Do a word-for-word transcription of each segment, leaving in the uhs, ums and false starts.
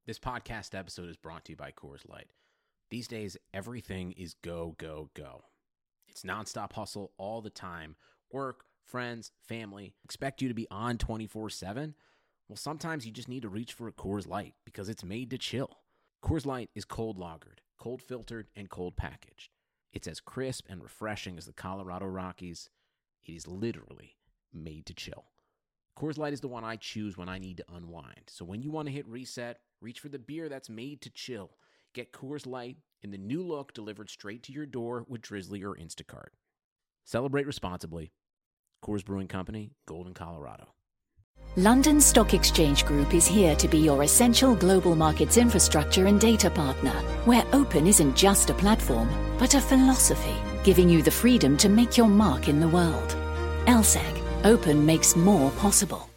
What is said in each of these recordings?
This podcast episode is brought to you by Coors Light. These days, everything is go, go, go. It's nonstop hustle all the time. Work, friends, family, expect you to be on twenty-four seven. Well, sometimes you just need to reach for a Coors Light because it's made to chill. Coors Light is cold lagered, cold filtered, and cold packaged. It's as crisp and refreshing as the Colorado Rockies. It is literally made to chill. Coors Light is the one I choose when I need to unwind. So when you want to hit reset, reach for the beer that's made to chill. Get Coors Light in the new look delivered straight to your door with Drizzly or Instacart. Celebrate responsibly. Coors Brewing Company, Golden, Colorado. London Stock Exchange Group is here to be your essential global markets infrastructure and data partner, where open isn't just a platform, but a philosophy, giving you the freedom to make your mark in the world. L S E C. Open makes more possible.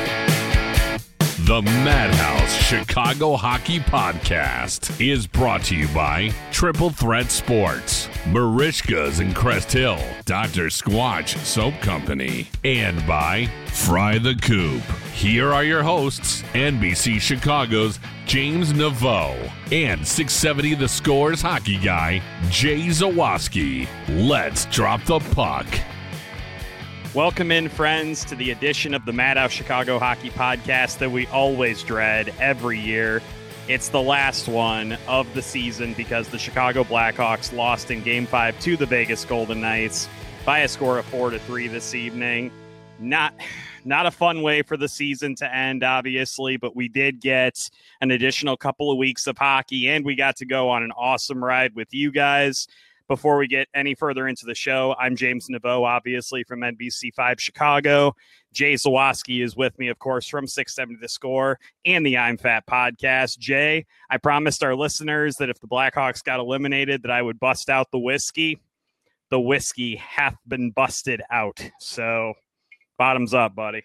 The Madhouse Chicago Hockey Podcast is brought to you by Triple Threat Sports, Marishka's in Crest Hill, Doctor Squatch Soap Company, and by Fry the Coop. Here are your hosts, N B C Chicago's James Naveau and six seventy The Score's hockey guy, Jay Zawaski. Let's drop the puck. Welcome in, friends, to the edition of the Madhouse Chicago Hockey Podcast that we always dread every year. It's the last one of the season because the Chicago Blackhawks lost in Game five to the Vegas Golden Knights by a score of four to three this evening. Not, not a fun way for the season to end, obviously, but we did get an additional couple of weeks of hockey, and we got to go on an awesome ride with you guys. Before we get any further into the show, I'm James Naveau, obviously, from N B C five Chicago. Jay Zawaski is with me, of course, from six seventy The Score and the I'm Fat podcast. Jay, I promised our listeners that if the Blackhawks got eliminated, that I would bust out the whiskey. The whiskey hath been busted out. So, bottoms up, buddy.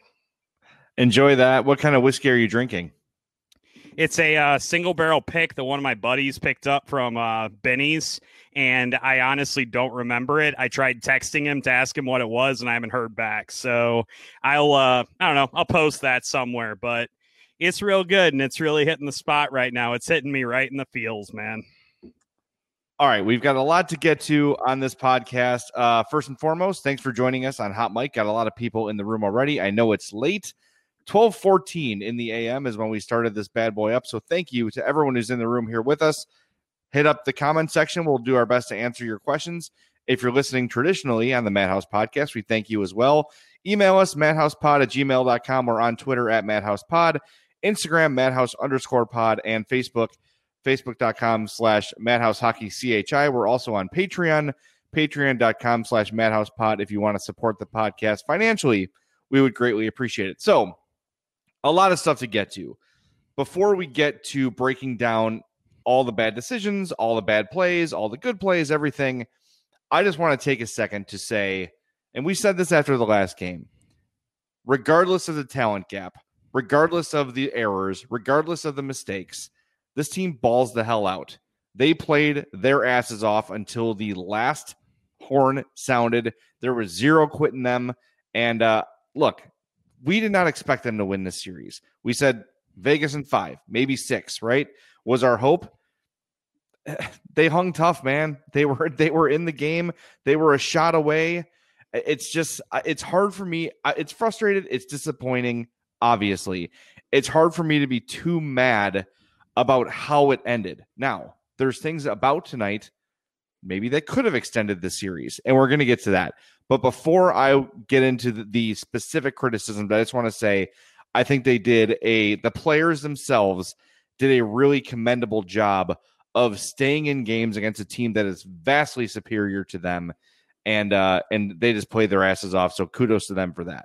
Enjoy that. What kind of whiskey are you drinking? It's a uh, single barrel pick that one of my buddies picked up from uh, Benny's, and I honestly don't remember it. I tried texting him to ask him what it was, and I haven't heard back. So I'll, uh, I don't know, I'll post that somewhere, but it's real good, and it's really hitting the spot right now. It's hitting me right in the feels, man. All right, we've got a lot to get to on this podcast. Uh, first and foremost, thanks for joining us on Hot Mic. Got a lot of people in the room already. I know it's late. twelve fourteen in the A M is when we started this bad boy up. So thank you to everyone who's in the room here with us. Hit up the comment section. We'll do our best to answer your questions. If you're listening traditionally on the Madhouse Podcast, we thank you as well. Email us, madhousepod at gmail dot com. Or on Twitter at madhousepod, Instagram, madhouse underscore pod, and Facebook, facebook.com slash madhousehockeychi. We're also on Patreon, patreon.com slash madhousepod. If you want to support the podcast financially, we would greatly appreciate it. So, a lot of stuff to get to. Before we get to breaking down all the bad decisions, all the bad plays, all the good plays, everything, I just want to take a second to say, and we said this after the last game, regardless of the talent gap, regardless of the errors, regardless of the mistakes, this team balls the hell out. They played their asses off until the last horn sounded. There was zero quitting them. And uh, look, we did not expect them to win this series. We said Vegas in five, maybe six, right? Was our hope. They hung tough, man. They were they were in the game. They were a shot away. It's just, it's hard for me. It's frustrated. It's disappointing, obviously. It's hard for me to be too mad about how it ended. Now, there's things about tonight maybe that could have extended the series, and we're going to get to that. But before I get into the, the specific criticism, I just want to say I think they did a, the players themselves did a really commendable job of staying in games against a team that is vastly superior to them. And, uh, and they just played their asses off. So kudos to them for that.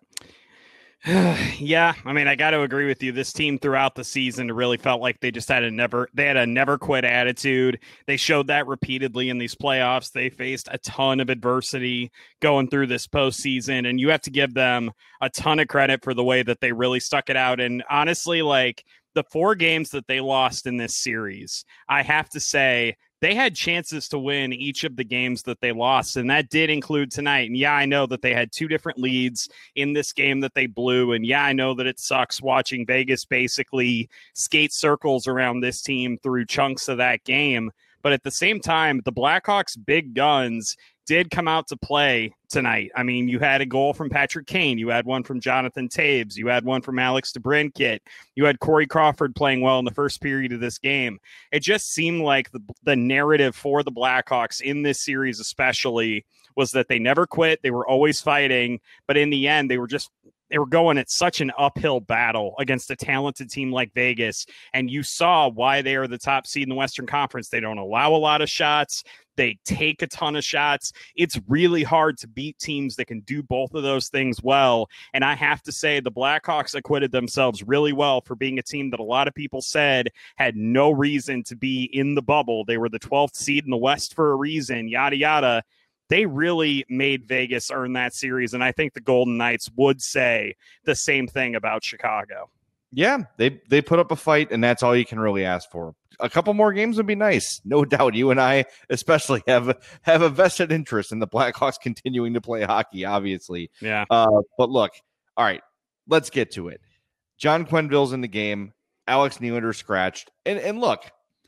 Yeah, I mean, I got to agree with you. This team throughout the season really felt like they just had a never, they had a never quit attitude. They showed that repeatedly in these playoffs. They faced a ton of adversity going through this postseason, and you have to give them a ton of credit for the way that they really stuck it out. And honestly, like the four games that they lost in this series, I have to say they had chances to win each of the games that they lost, and that did include tonight. And yeah, I know that they had two different leads in this game that they blew, and yeah, I know that it sucks watching Vegas basically skate circles around this team through chunks of that game. But at the same time, the Blackhawks' big guns did come out to play tonight. I mean, you had a goal from Patrick Kane. You had one from Jonathan Taves. You had one from Alex DeBrincat. You had Corey Crawford playing well in the first period of this game. It just seemed like the, the narrative for the Blackhawks in this series especially was that they never quit. They were always fighting. But in the end, they were just they were going at such an uphill battle against a talented team like Vegas. And you saw why they are the top seed in the Western Conference. They don't allow a lot of shots. They take a ton of shots. It's really hard to beat teams that can do both of those things well. And I have to say the Blackhawks acquitted themselves really well for being a team that a lot of people said had no reason to be in the bubble. They were the twelfth seed in the West for a reason, yada, yada. They really made Vegas earn that series, and I think the Golden Knights would say the same thing about Chicago. Yeah, they they put up a fight, and that's all you can really ask for. A couple more games would be nice. No doubt you and I especially have, have a vested interest in the Blackhawks continuing to play hockey, obviously. Yeah. Uh, but look, all right, let's get to it. John Quenneville's in the game. Alex Nylander scratched. And, and look,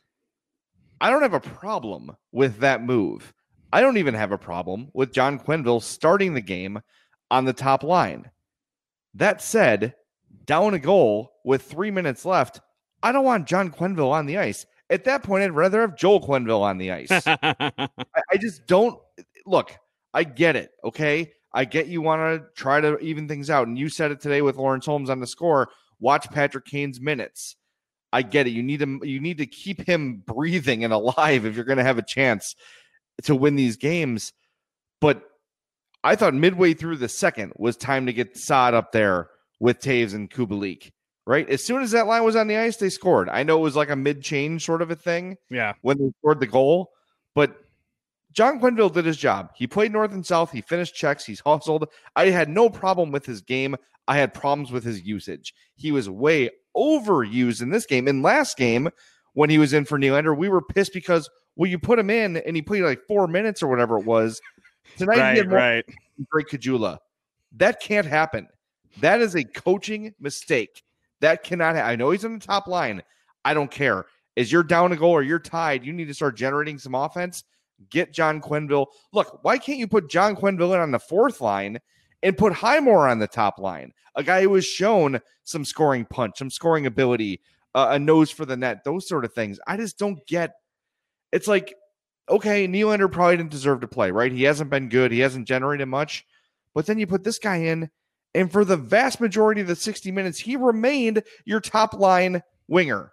I don't have a problem with that move. I don't even have a problem with John Quenneville starting the game on the top line. That said, down a goal with three minutes left, I don't want John Quenneville on the ice. At that point, I'd rather have Joel Quenneville on the ice. I, I just don't look. I get it. Okay. I get you want to try to even things out. And you said it today with Lawrence Holmes on the score. Watch Patrick Kane's minutes. I get it. You need to, you need to keep him breathing and alive if you're going to have a chance to win these games. But I thought midway through the second was time to get Saad up there with Taves and Kubalik, right? As soon as that line was on the ice, they scored. I know it was like a mid-change sort of a thing yeah, when they scored the goal, but John Quenneville did his job. He played north and south. He finished checks. He's hustled. I had no problem with his game. I had problems with his usage. He was way overused in this game. In last game, when he was in for Nylander, we were pissed because, well, you put him in and he played like four minutes or whatever it was. Tonight right, he had more right. Drake Caggiula. That can't happen. That is a coaching mistake. That cannot happen. I know he's on the top line. I don't care. As you're down a goal or you're tied, you need to start generating some offense. Get John Quenneville. Look, why can't you put John Quenneville in on the fourth line and put Highmore on the top line? A guy who has shown some scoring punch, some scoring ability, uh, a nose for the net, those sort of things. I just don't get. It's like, okay, Nylander probably didn't deserve to play, right? He hasn't been good. He hasn't generated much. But then you put this guy in, and for the vast majority of the sixty minutes, he remained your top line winger.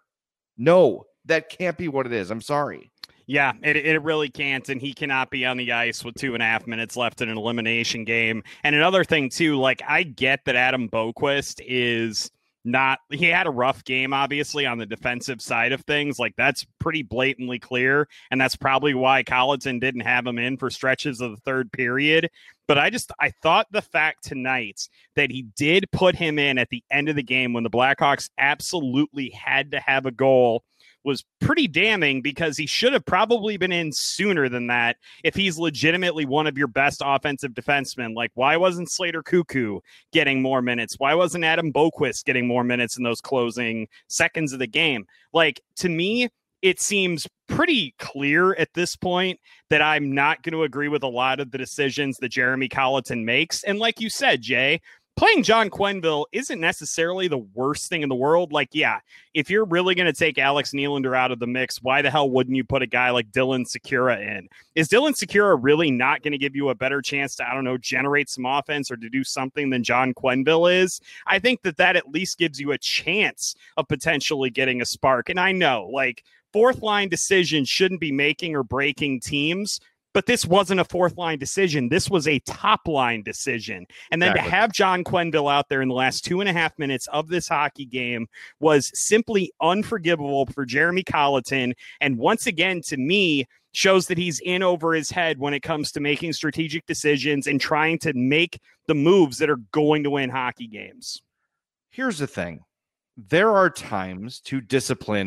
No, that can't be what it is. I'm sorry. Yeah, it it really can't, and he cannot be on the ice with two and a half minutes left in an elimination game. And another thing, too, like, I get that Adam Boquist is not – he had a rough game, obviously, on the defensive side of things. Like, that's pretty blatantly clear, and that's probably why Colliton didn't have him in for stretches of the third period. But I just, I thought the fact tonight that he did put him in at the end of the game when the Blackhawks absolutely had to have a goal was pretty damning, because he should have probably been in sooner than that if he's legitimately one of your best offensive defensemen. Like, why wasn't Slater Cuckoo getting more minutes? Why wasn't Adam Boquist getting more minutes in those closing seconds of the game? Like, to me, it seems pretty clear at this point that I'm not going to agree with a lot of the decisions that Jeremy Colliton makes. And like you said, Jay, playing John Quenneville isn't necessarily the worst thing in the world. Like, yeah, if you're really going to take Alex Nylander out of the mix, why the hell wouldn't you put a guy like Dylan Sikura in? Is Dylan Sikura really not going to give you a better chance to, I don't know, generate some offense or to do something than John Quenneville is? I think that that at least gives you a chance of potentially getting a spark. And I know, like, fourth line decisions shouldn't be making or breaking teams, but this wasn't a fourth line decision. This was a top line decision. And then exactly. to have John Quenneville out there in the last two and a half minutes of this hockey game was simply unforgivable for Jeremy Colliton. And once again, to me, shows that he's in over his head when it comes to making strategic decisions and trying to make the moves that are going to win hockey games. Here's the thing. There are times to discipline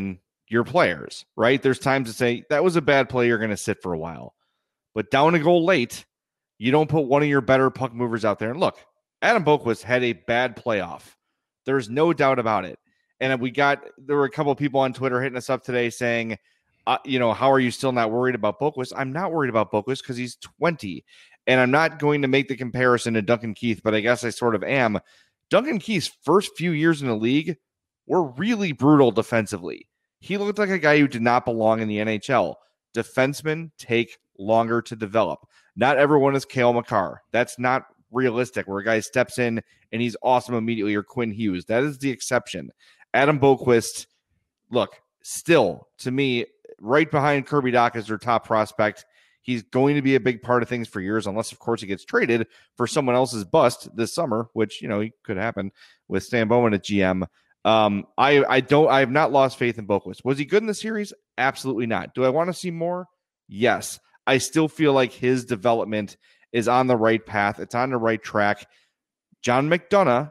your players, right? There's times to say that was a bad play. You're going to sit for a while, but down a goal late, you don't put one of your better puck movers out there. And look, Adam Boqvist had a bad playoff. There's no doubt about it. And we got, there were a couple of people on Twitter hitting us up today saying, uh, you know, how are you still not worried about Boqvist? I'm not worried about Boqvist because he's twenty. And I'm not going to make the comparison to Duncan Keith, but I guess I sort of am. Duncan Keith's first few years in the league were really brutal defensively. He looked like a guy who did not belong in the N H L. Defensemen take longer to develop. Not everyone is Cale Makar. That's not realistic, where a guy steps in and he's awesome immediately, or Quinn Hughes. That is the exception. Adam Boqvist, look, still, to me, right behind Kirby Dach as their top prospect. He's going to be a big part of things for years, unless, of course, he gets traded for someone else's bust this summer, which, you know, could happen with Stan Bowman at G M. Um, I, I don't, I have not lost faith in Boqvist. Was he good in the series? Absolutely not. Do I want to see more? Yes. I still feel like his development is on the right path. It's on the right track. John McDonough,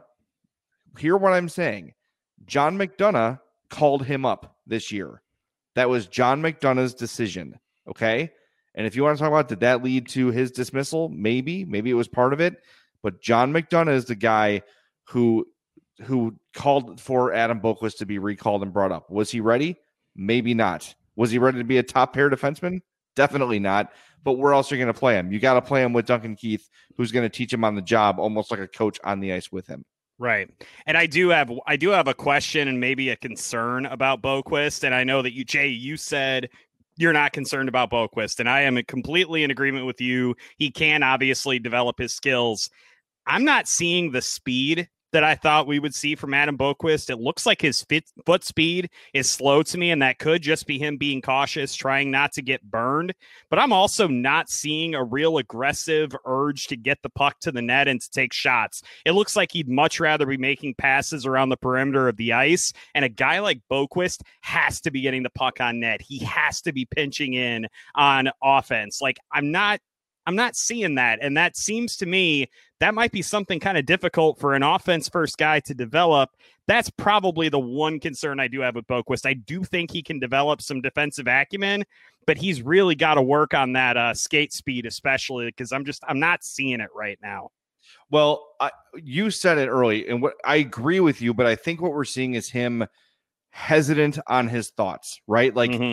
hear what I'm saying. John McDonough called him up this year. That was John McDonough's decision. Okay. And if you want to talk about, did that lead to his dismissal? Maybe, maybe it was part of it. But John McDonough is the guy who, who called for Adam Boqvist to be recalled and brought up. Was he ready? Maybe not. Was he ready to be a top pair defenseman? Definitely not. But where else are you going to play him? You got to play him with Duncan Keith, who's going to teach him on the job, almost like a coach on the ice with him. Right. And I do have I do have a question and maybe a concern about Boqvist. And I know that you, Jay, you said you're not concerned about Boqvist, and I am completely in agreement with you. He can obviously develop his skills. I'm not seeing the speed that I thought we would see from Adam Boqvist. It looks like his fit, foot speed is slow to me, and that could just be him being cautious, trying not to get burned. But I'm also not seeing a real aggressive urge to get the puck to the net and to take shots. It looks like he'd much rather be making passes around the perimeter of the ice, and a guy like Boqvist has to be getting the puck on net. He has to be pinching in on offense. Like, I'm not I'm not seeing that. And that seems to me that might be something kind of difficult for an offense first guy to develop. That's probably the one concern I do have with Boqvist. I do think he can develop some defensive acumen, but he's really got to work on that uh, skate speed, especially because I'm just I'm not seeing it right now. Well, I, you said it early, and what I agree with you, but I think what we're seeing is him hesitant on his thoughts, right? Like mm-hmm.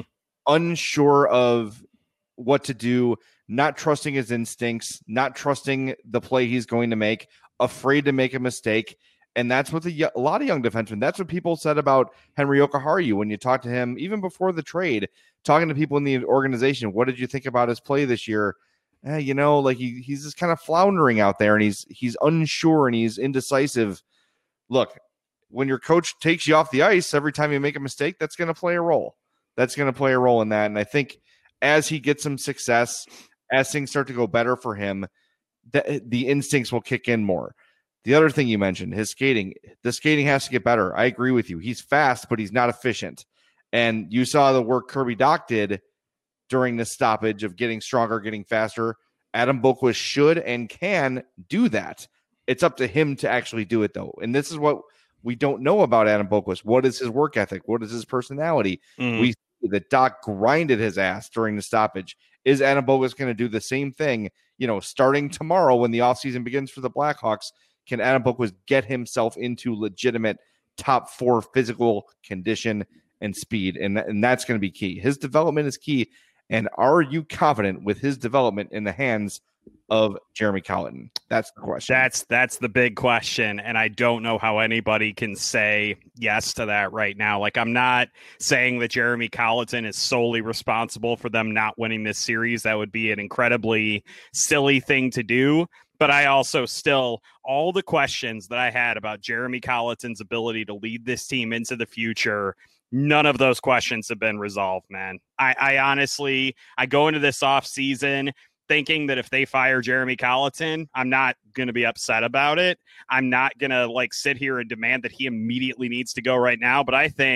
unsure of what to do, not trusting his instincts, not trusting the play he's going to make, afraid to make a mistake. And that's what the, a lot of young defensemen, that's what people said about Henri Jokiharju when you talk to him, even before the trade, talking to people in the organization. What did you think about his play this year? Eh, you know, like he, he's just kind of floundering out there, and he's he's unsure and he's indecisive. Look, when your coach takes you off the ice every time you make a mistake, that's going to play a role. That's going to play a role in that. And I think as he gets some success, as things start to go better for him, the, the instincts will kick in more. The other thing you mentioned, his skating, the skating has to get better. I agree with you. He's fast, but he's not efficient. And you saw the work Kirby Dach did during the stoppage of getting stronger, getting faster. Adam Boqvist should and can do that. It's up to him to actually do it, though. And this is what we don't know about Adam Boqvist. What is his work ethic? What is his personality? Mm-hmm. We see that Dach grinded his ass during the stoppage. Is Adam Boqvist going to do the same thing, you know, starting tomorrow when the offseason begins for the Blackhawks? Can Adam Boqvist get himself into legitimate top four physical condition and speed? And, and that's going to be key. His development is key. And are you confident with his development in the hands of Jeremy Colliton? That's the question. That's that's the big question. And I don't know how anybody can say yes to that right now. Like, I'm not saying that Jeremy Colliton is solely responsible for them not winning this series. That would be an incredibly silly thing to do. But I also still, all the questions that I had about Jeremy Colliton's ability to lead this team into the future, none of those questions have been resolved, man. I, I honestly, I go into this offseason thinking that if they fire Jeremy Colliton, I'm not going to be upset about it. I'm not going to like sit here and demand that he immediately needs to go right now. But I think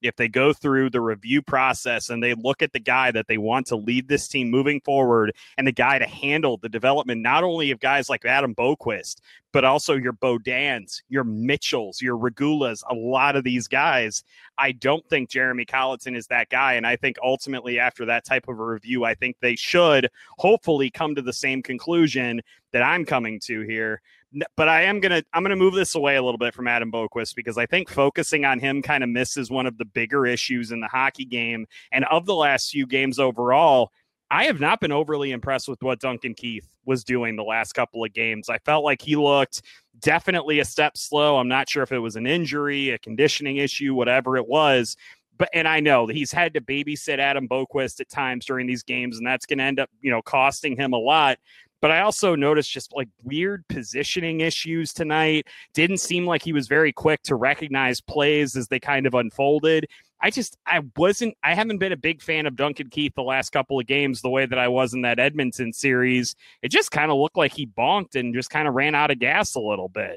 if they go through the review process and they look at the guy that they want to lead this team moving forward and the guy to handle the development, not only of guys like Adam Boquist, but also your Bodans, your Mitchells, your Regulas, a lot of these guys, I don't think Jeremy Colleton is that guy. And I think ultimately after that type of a review, I think they should hopefully come to the same conclusion that I'm coming to here. But I am going to, I'm going to move this away a little bit from Adam Boquist because I think focusing on him kind of misses one of the bigger issues in the hockey game. And of the last few games overall, I have not been overly impressed with what Duncan Keith was doing the last couple of games. I felt like he looked definitely a step slow. I'm not sure if it was an injury, a conditioning issue, whatever it was. But, and I know that he's had to babysit Adam Boquist at times during these games, and that's going to end up, you know, costing him a lot. But I also noticed just like weird positioning issues tonight. Didn't seem like he was very quick to recognize plays as they kind of unfolded. I just, I wasn't, I haven't been a big fan of Duncan Keith the last couple of games the way that I was in that Edmonton series. It just kind of looked like he bonked and just kind of ran out of gas a little bit.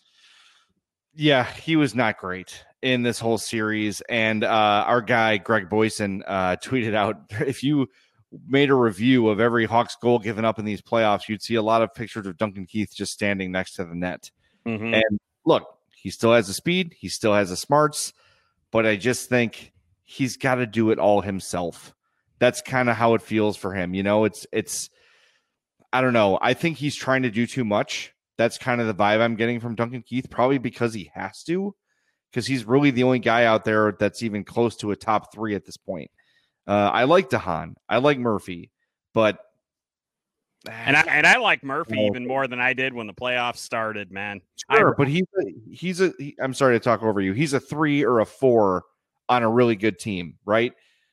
Yeah, he was not great in this whole series. And uh, our guy, Greg Boyson, uh, tweeted out, if you made a review of every Hawks goal given up in these playoffs, you'd see a lot of pictures of Duncan Keith just standing next to the net. Mm-hmm. And look, he still has the speed. He still has the smarts. But I just think he's got to do it all himself. That's kind of how it feels for him. You know, it's, it's, I don't know. I think he's trying to do too much. That's kind of the vibe I'm getting from Duncan Keith, probably because he has to, because he's really the only guy out there that's even close to a top three at this point. Uh, I like DeHaan. I like Murphy, but and I and I like Murphy oh. even more than I did when the playoffs started, man. Sure, I, but he's a, he's a. He, I'm sorry to talk over you. He's a three or a four on a really good team, right?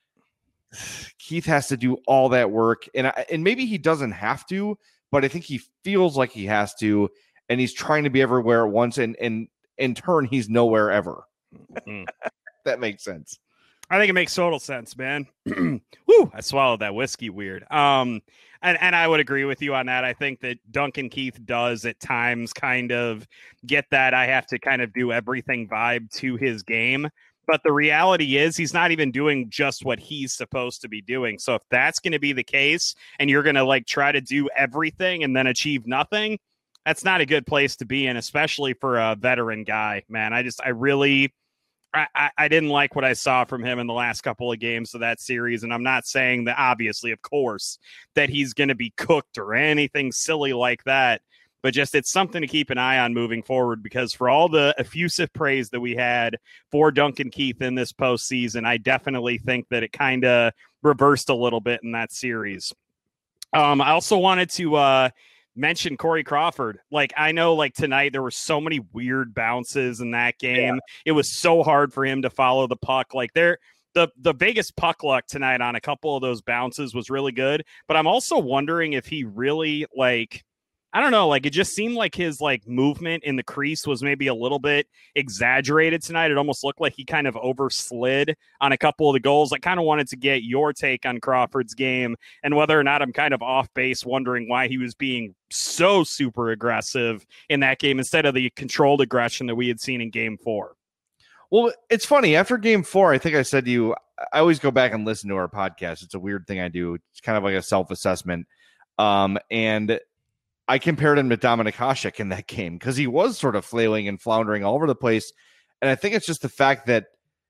Keith has to do all that work, and I, and maybe he doesn't have to, but I think he feels like he has to, and he's trying to be everywhere at once, and and in turn, he's nowhere ever. Mm. That makes sense. I think it makes total sense, man. Woo! I swallowed that whiskey weird. Um, and, and I would agree with you on that. I think that Duncan Keith does at times kind of get that I have to kind of do everything vibe to his game. But the reality is he's not even doing just what he's supposed to be doing. So if that's going to be the case and you're going to like try to do everything and then achieve nothing, that's not a good place to be in, especially for a veteran guy, man. I just, I really... I, I didn't like what I saw from him in the last couple of games of that series. And I'm not saying that, obviously, of course, that he's going to be cooked or anything silly like that. But just it's something to keep an eye on moving forward, because for all the effusive praise that we had for Duncan Keith in this postseason, I definitely think that it kind of reversed a little bit in that series. Um, I also wanted to uh, mention Corey Crawford. Like, I know like tonight there were so many weird bounces in that game. Yeah. It was so hard for him to follow the puck. Like there, the, the Vegas puck luck tonight on a couple of those bounces was really good, but I'm also wondering if he really like, I don't know, like it just seemed like his like movement in the crease was maybe a little bit exaggerated tonight. It almost looked like he kind of overslid on a couple of the goals. I kind of wanted to get your take on Crawford's game and whether or not I'm kind of off base wondering why he was being so super aggressive in that game instead of the controlled aggression that we had seen in game four. Well, it's funny. After game four, I think I said to you, I always go back and listen to our podcast. It's a weird thing I do. It's kind of like a self-assessment. Um, and I compared him to Dominik Hasek in that game because he was sort of flailing and floundering all over the place. And I think it's just the fact that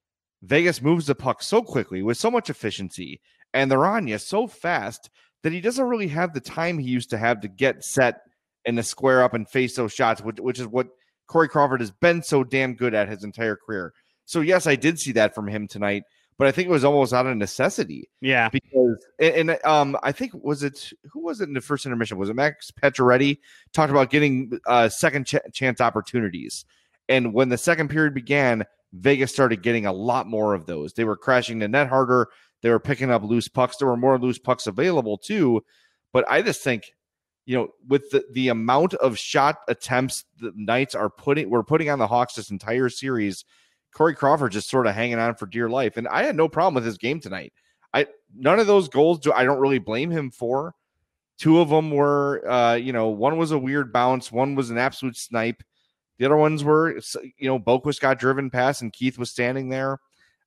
Vegas moves the puck so quickly with so much efficiency, and they're on you so fast that he doesn't really have the time he used to have to get set and to square up and face those shots, which, which is what Corey Crawford has been so damn good at his entire career. So, yes, I did see that from him tonight, but I think it was almost out of necessity. Yeah. Because, and, and um, I think, was it, who was it in the first intermission? Was it Max Pacioretty? Talked about getting uh, second ch- chance opportunities. And when the second period began, Vegas started getting a lot more of those. They were crashing the net harder. They were picking up loose pucks. There were more loose pucks available too. But I just think, you know, with the, the amount of shot attempts the Knights are putting, we're putting on the Hawks this entire series, Corey Crawford just sort of hanging on for dear life. And I had no problem with his game tonight. I none of those goals do I don't really blame him for. Two of them were, uh, you know, one was a weird bounce. One was an absolute snipe. The other ones were, you know, Boquist got driven past and Keith was standing there.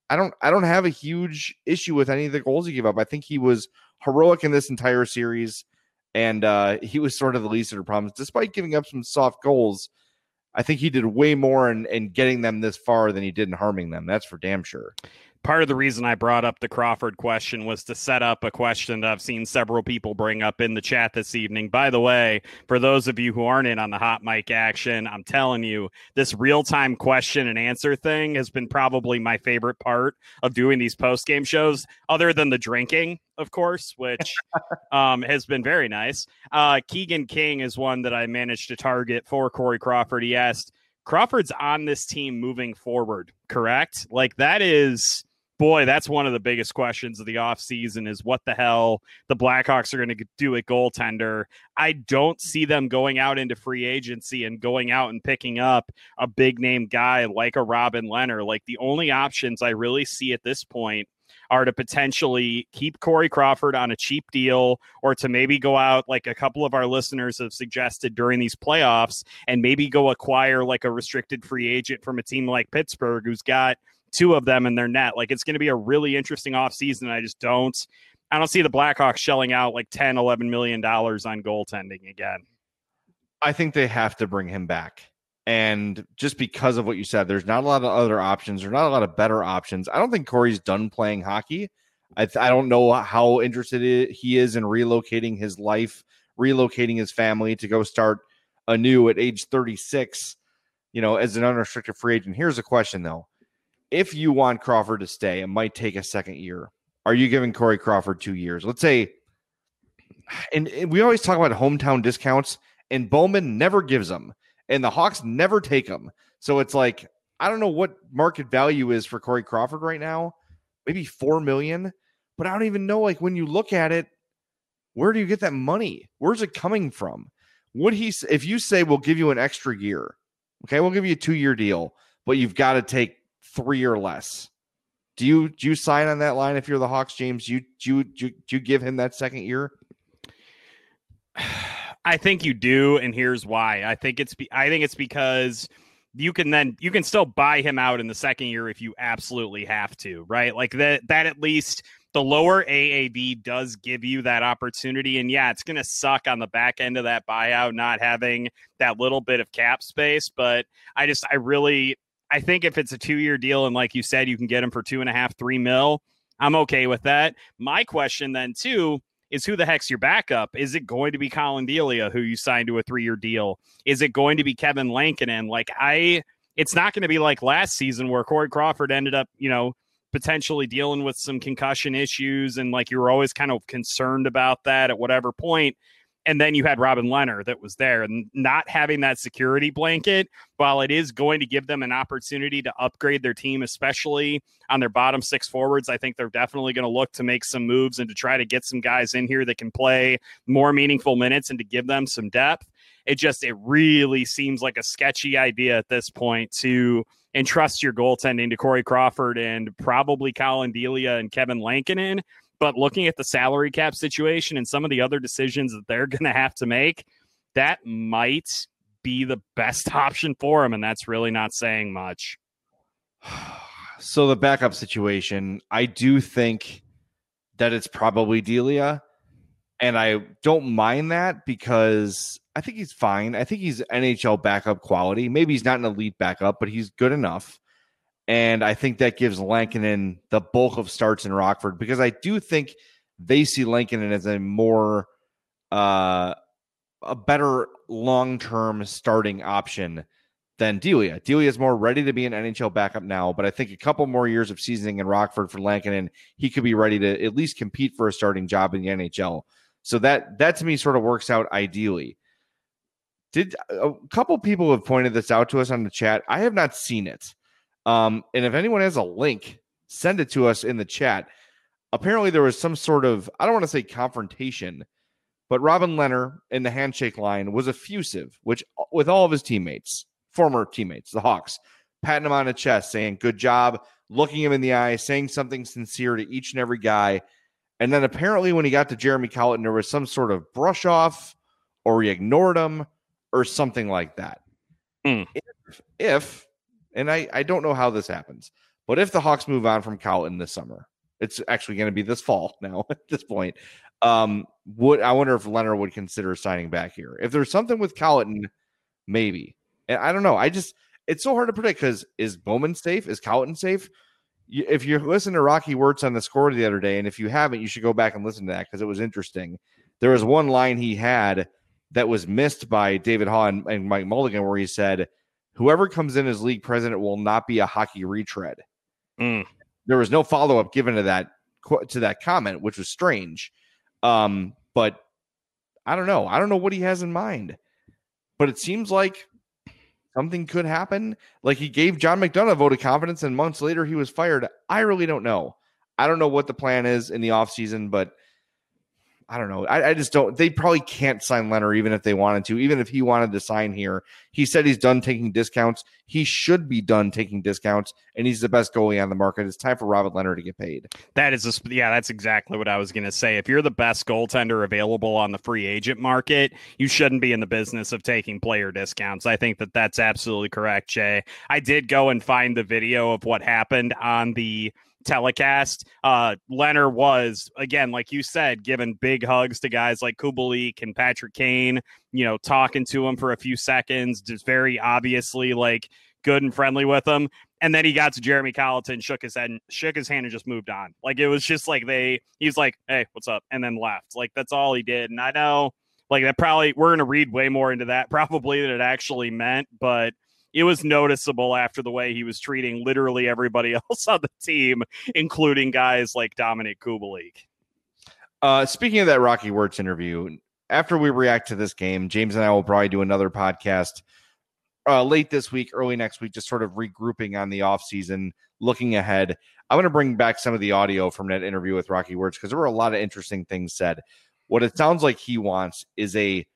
I don't I don't have a huge issue with any of the goals he gave up. I think he was heroic in this entire series, and uh, he was sort of the least of the problems. Despite giving up some soft goals, I think he did way more in, in getting them this far than he did in harming them. That's for damn sure. Part of the reason I brought up the Crawford question was to set up a question that I've seen several people bring up in the chat this evening. By the way, for those of you who aren't in on the hot mic action, I'm telling you, this real-time question and answer thing has been probably my favorite part of doing these post-game shows, other than the drinking, of course, which um, has been very nice. Uh, Keegan King is one that I managed to target for Corey Crawford. He asked, Crawford's on this team moving forward, correct? Like, that is... Boy, that's one of the biggest questions of the offseason is what the hell the Blackhawks are going to do at goaltender. I don't see them going out into free agency and going out and picking up a big-name guy like a Robin Lehner. Like, the only options I really see at this point are to potentially keep Corey Crawford on a cheap deal, or to maybe go out, like a couple of our listeners have suggested during these playoffs, and maybe go acquire like a restricted free agent from a team like Pittsburgh who's got two of them in their net. Like, it's going to be a really interesting offseason. I just don't, I don't see the Blackhawks shelling out like ten, eleven million dollars on goaltending again. I think they have to bring him back. And just because of what you said, there's not a lot of other options. There's not a lot of better options. I don't think Corey's done playing hockey. I, th- I don't know how interested he is in relocating his life, relocating his family to go start anew at age thirty-six, you know, as an unrestricted free agent. Here's a question, though. If you want Crawford to stay, it might take a second year. Are you giving Corey Crawford two years? Let's say, and, and we always talk about hometown discounts, and Bowman never gives them, and the Hawks never take them. So it's like, I don't know what market value is for Corey Crawford right now. Maybe four million dollars, but I don't even know, like, when you look at it, where do you get that money? Where's it coming from? Would he, if you say we'll give you an extra year, okay, we'll give you a two-year deal, but you've got to take three or less. Do you do you sign on that line if you're the Hawks, James? Do you do you, do you, do you give him that second year? I think you do, and here's why. I think it's be, I think it's because you can then you can still buy him out in the second year if you absolutely have to, right? Like that that at least the lower A A V does give you that opportunity. And yeah, it's going to suck on the back end of that buyout not having that little bit of cap space, but I just I really I think if it's a two-year deal and like you said, you can get him for two and a half, three mil, I'm okay with that. My question then, too, is who the heck's your backup? Is it going to be Colin Delia, who you signed to a three-year deal? Is it going to be Kevin Lankinen? Like, I, it's not going to be like last season where Corey Crawford ended up, you know, potentially dealing with some concussion issues. And like, you were always kind of concerned about that at whatever point. And then you had Robin Lehner that was there, and not having that security blanket, while it is going to give them an opportunity to upgrade their team, especially on their bottom six forwards, I think they're definitely going to look to make some moves and to try to get some guys in here that can play more meaningful minutes and to give them some depth. It just, it really seems like a sketchy idea at this point to entrust your goaltending to Corey Crawford and probably Colin Delia and Kevin Lankinen. But looking at the salary cap situation and some of the other decisions that they're going to have to make, that might be the best option for them. And that's really not saying much. So the backup situation, I do think that it's probably Delia. And I don't mind that because I think he's fine. I think he's N H L backup quality. Maybe he's not an elite backup, but he's good enough. And I think that gives Lankinen the bulk of starts in Rockford, because I do think they see Lankinen as a more, uh, a better long-term starting option than Delia. Delia is more ready to be an N H L backup now, but I think a couple more years of seasoning in Rockford for Lankinen, he could be ready to at least compete for a starting job in the N H L. So that, that to me sort of works out ideally. Did a couple people have pointed this out to us on the chat. I have not seen it. Um, and if anyone has a link, send it to us in the chat. Apparently there was some sort of, I don't want to say confrontation, but Robin Lehner in the handshake line was effusive, which with all of his teammates, former teammates, the Hawks, patting him on the chest, saying, good job, looking him in the eye, saying something sincere to each and every guy. And then apparently when he got to Jeremy Colliton, there was some sort of brush off, or he ignored him or something like that. Mm. If, if And I, I don't know how this happens, But if the Hawks move on from Colliton this summer, it's actually going to be this fall now at this point. Um, would I wonder if Leonard would consider signing back here? If there's something with Colliton, maybe. And I don't know. I just, it's so hard to predict because is Bowman safe? Is Colliton safe? You, if you listen to Rocky Wirtz on the Score the other day, and if you haven't, you should go back and listen to that because it was interesting. There was one line he had that was missed by David Haw and, and Mike Mulligan where he said, whoever comes in as league president will not be a hockey retread. Mm. There was no follow-up given to that to that comment, which was strange. Um, but I don't know. I don't know what he has in mind. But it seems like something could happen. Like he gave John McDonough a vote of confidence, and months later he was fired. I really don't know. I don't know what the plan is in the offseason, but I don't know. I, I just don't. They probably can't sign Leonard even if they wanted to, even if he wanted to sign here. He said he's done taking discounts. He should be done taking discounts, and he's the best goalie on the market. It's time for Robert Leonard to get paid. That is, a, yeah, that's exactly what I was going to say. If you're the best goaltender available on the free agent market, you shouldn't be in the business of taking player discounts. I think that that's absolutely correct, Jay. I did go and find the video of what happened on the telecast. uh Leonard was, again, like you said, giving big hugs to guys like Kubalik and Patrick Kane, you know, talking to him for a few seconds, just very obviously like good and friendly with him. And then he got to Jeremy Colliton, shook his head, and shook his hand and just moved on. Like it was just like they he's like, hey, what's up? And then left. Like that's all he did. And I know like that probably we're gonna read way more into that probably than it actually meant, but it was noticeable after the way he was treating literally everybody else on the team, including guys like Dominic Kubalik. Uh, speaking of that Rocky Wirtz interview, after we react to this game, James and I will probably do another podcast uh, late this week, early next week, just sort of regrouping on the offseason, looking ahead. I'm going to bring back some of the audio from that interview with Rocky Wirtz because there were a lot of interesting things said. What it sounds like he wants is a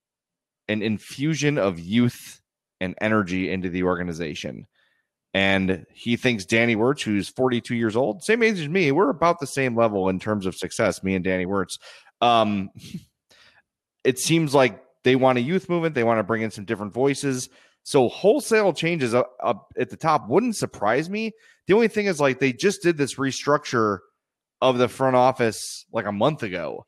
an infusion of youth and energy into the organization. And he thinks Danny Wirtz, who's forty-two years old, same age as me, we're about the same level in terms of success, me and Danny Wirtz. Um, it seems like they want a youth movement. They want to bring in some different voices. So wholesale changes up, up at the top wouldn't surprise me. The only thing is like they just did this restructure of the front office like a month ago.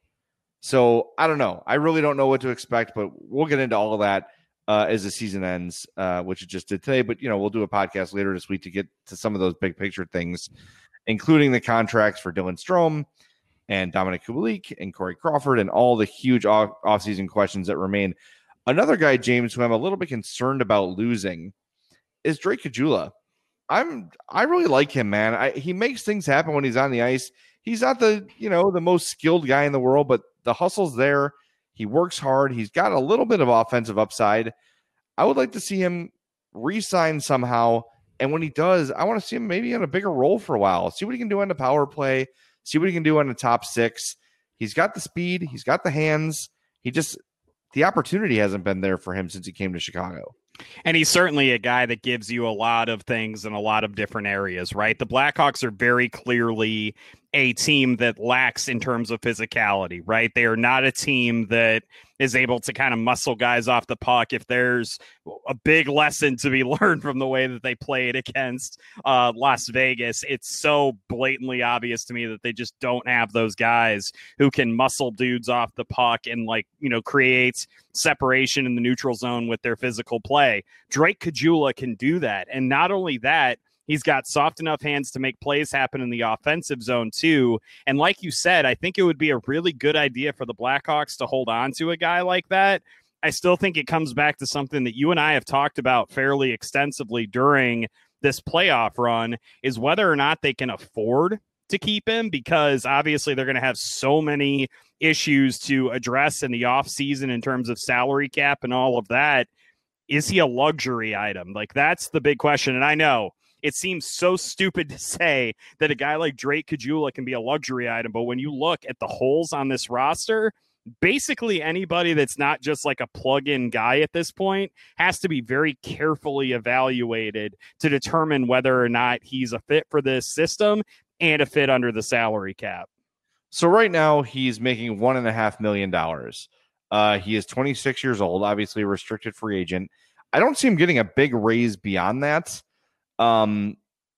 So I don't know. I really don't know what to expect, but we'll get into all of that Uh, as the season ends, uh, which it just did today. But, you know, we'll do a podcast later this week to get to some of those big picture things, including the contracts for Dylan Strome and Dominic Kubalik and Corey Crawford and all the huge off- offseason questions that remain. Another guy, James, who I'm a little bit concerned about losing is Drake Caggiula. I'm, I really like him, man. I, he makes things happen when he's on the ice. He's not the, you know, the most skilled guy in the world, but the hustle's there. He works hard. He's got a little bit of offensive upside. I would like to see him re-sign somehow. And when he does, I want to see him maybe in a bigger role for a while. See what he can do on the power play. See what he can do on the top six. He's got the speed. He's got the hands. He just, the opportunity hasn't been there for him since he came to Chicago. And he's certainly a guy that gives you a lot of things in a lot of different areas, right? The Blackhawks are very clearly a team that lacks in terms of physicality, right? They are not a team that is able to kind of muscle guys off the puck. If there's a big lesson to be learned from the way that they played against uh, Las Vegas, it's so blatantly obvious to me that they just don't have those guys who can muscle dudes off the puck and, like, you know, create separation in the neutral zone with their physical play. Drake Caggiula can do that. And not only that, he's got soft enough hands to make plays happen in the offensive zone too. And like you said, I think it would be a really good idea for the Blackhawks to hold on to a guy like that. I still think it comes back to something that you and I have talked about fairly extensively during this playoff run, is whether or not they can afford to keep him, because obviously they're going to have so many issues to address in the offseason in terms of salary cap and all of that. Is he a luxury item? Like, that's the big question. And I know it seems so stupid to say that a guy like Drake Caggiula can be a luxury item, but when you look at the holes on this roster, basically anybody that's not just like a plug-in guy at this point has to be very carefully evaluated to determine whether or not he's a fit for this system and a fit under the salary cap. So right now he's making one and a half million dollars. Uh, he is twenty-six years old, obviously a restricted free agent. I don't see him getting a big raise beyond that. Um,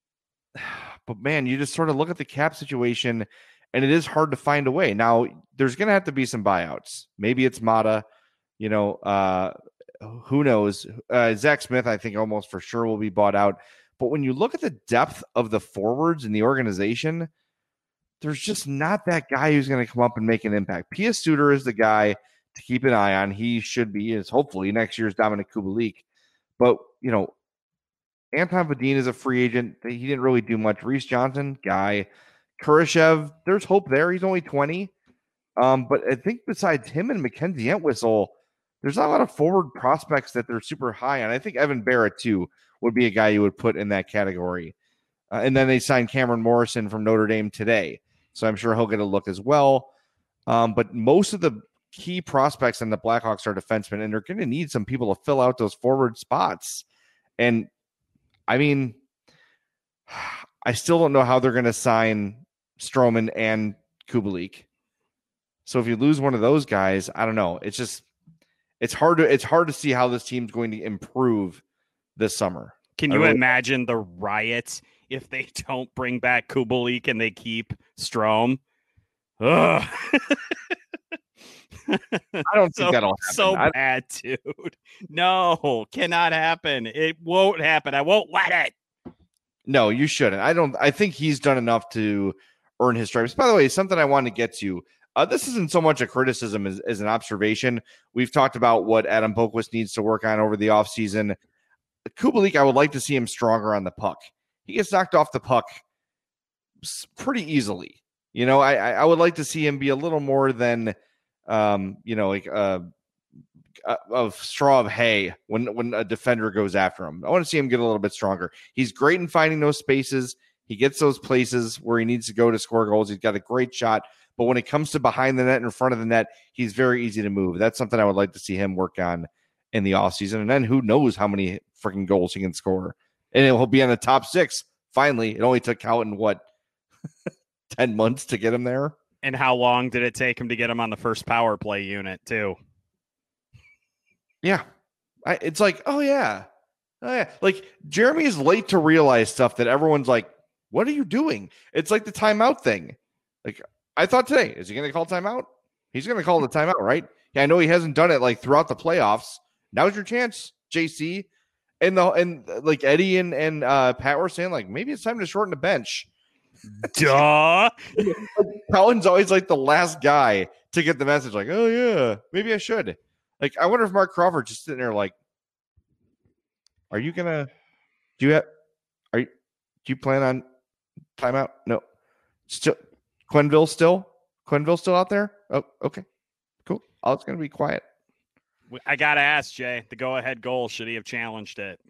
but man, you just sort of look at the cap situation, and it is hard to find a way. Now, there's going to have to be some buyouts. Maybe it's Mata, you know, uh, who knows? Uh, Zach Smith, I think almost for sure will be bought out. But when you look at the depth of the forwards in the organization, there's just not that guy who's going to come up and make an impact. Pia Suter is the guy to keep an eye on. He should be, is hopefully next year's Dominic Kubalik. But, you know, Anton Vadin is a free agent. He didn't really do much. Reese Johnson, guy. Kurashev, there's hope there. He's only twenty. Um, but I think besides him and Mackenzie Entwistle, there's not a lot of forward prospects that they're super high on. I think Evan Barrett, too, would be a guy you would put in that category. Uh, and then they signed Cameron Morrison from Notre Dame today. So I'm sure he'll get a look as well. Um, but most of the key prospects in the Blackhawks are defensemen, and they're going to need some people to fill out those forward spots. And, I mean, I still don't know how they're going to sign Stroman and Kubalik. So if you lose one of those guys, I don't know. It's just it's hard to it's hard to see how this team's going to improve this summer. Can you really, imagine the riots if they don't bring back Kubalik and they keep Strome? Ugh. I don't so, think that'll happen. So I, bad, dude. No, cannot happen. It won't happen. I won't let it. No, you shouldn't. I don't. I think he's done enough to earn his stripes. By the way, something I want to get to. Uh, this isn't so much a criticism as, as an observation. We've talked about what Adam Boqvist needs to work on over the offseason. Kubalik, I would like to see him stronger on the puck. He gets knocked off the puck pretty easily. You know, I, I would like to see him be a little more than, um, you know, like a, a, a straw of hay when, when a defender goes after him. I want to see him get a little bit stronger. He's great in finding those spaces. He gets those places where he needs to go to score goals. He's got a great shot. But when it comes to behind the net and in front of the net, he's very easy to move. That's something I would like to see him work on in the offseason. And then who knows how many freaking goals he can score. And he'll be on the top six. Finally, it only took Houghton, what, ten months to get him there? And how long did it take him to get him on the first power play unit, too? Yeah. I, it's like, oh, yeah. Oh, yeah. Like, Jeremy is late to realize stuff that everyone's like, what are you doing? It's like the timeout thing. Like, I thought today, is he going to call timeout? He's going to call the timeout, right? Yeah, I know he hasn't done it like throughout the playoffs. Now's your chance, J C. And the and like Eddie and and uh, Pat were saying, like, maybe it's time to shorten the bench. Duh. Colin's always like the last guy to get the message, like, oh yeah, maybe I should. Like, I wonder if Mark Crawford just sitting there, like, are you gonna do you have are you do you plan on timeout? No, still. Quenneville still? Quenneville still out there? Oh, okay. Cool. Oh, it's going to be quiet. I got to ask, Jay, the go-ahead goal, should he have challenged it?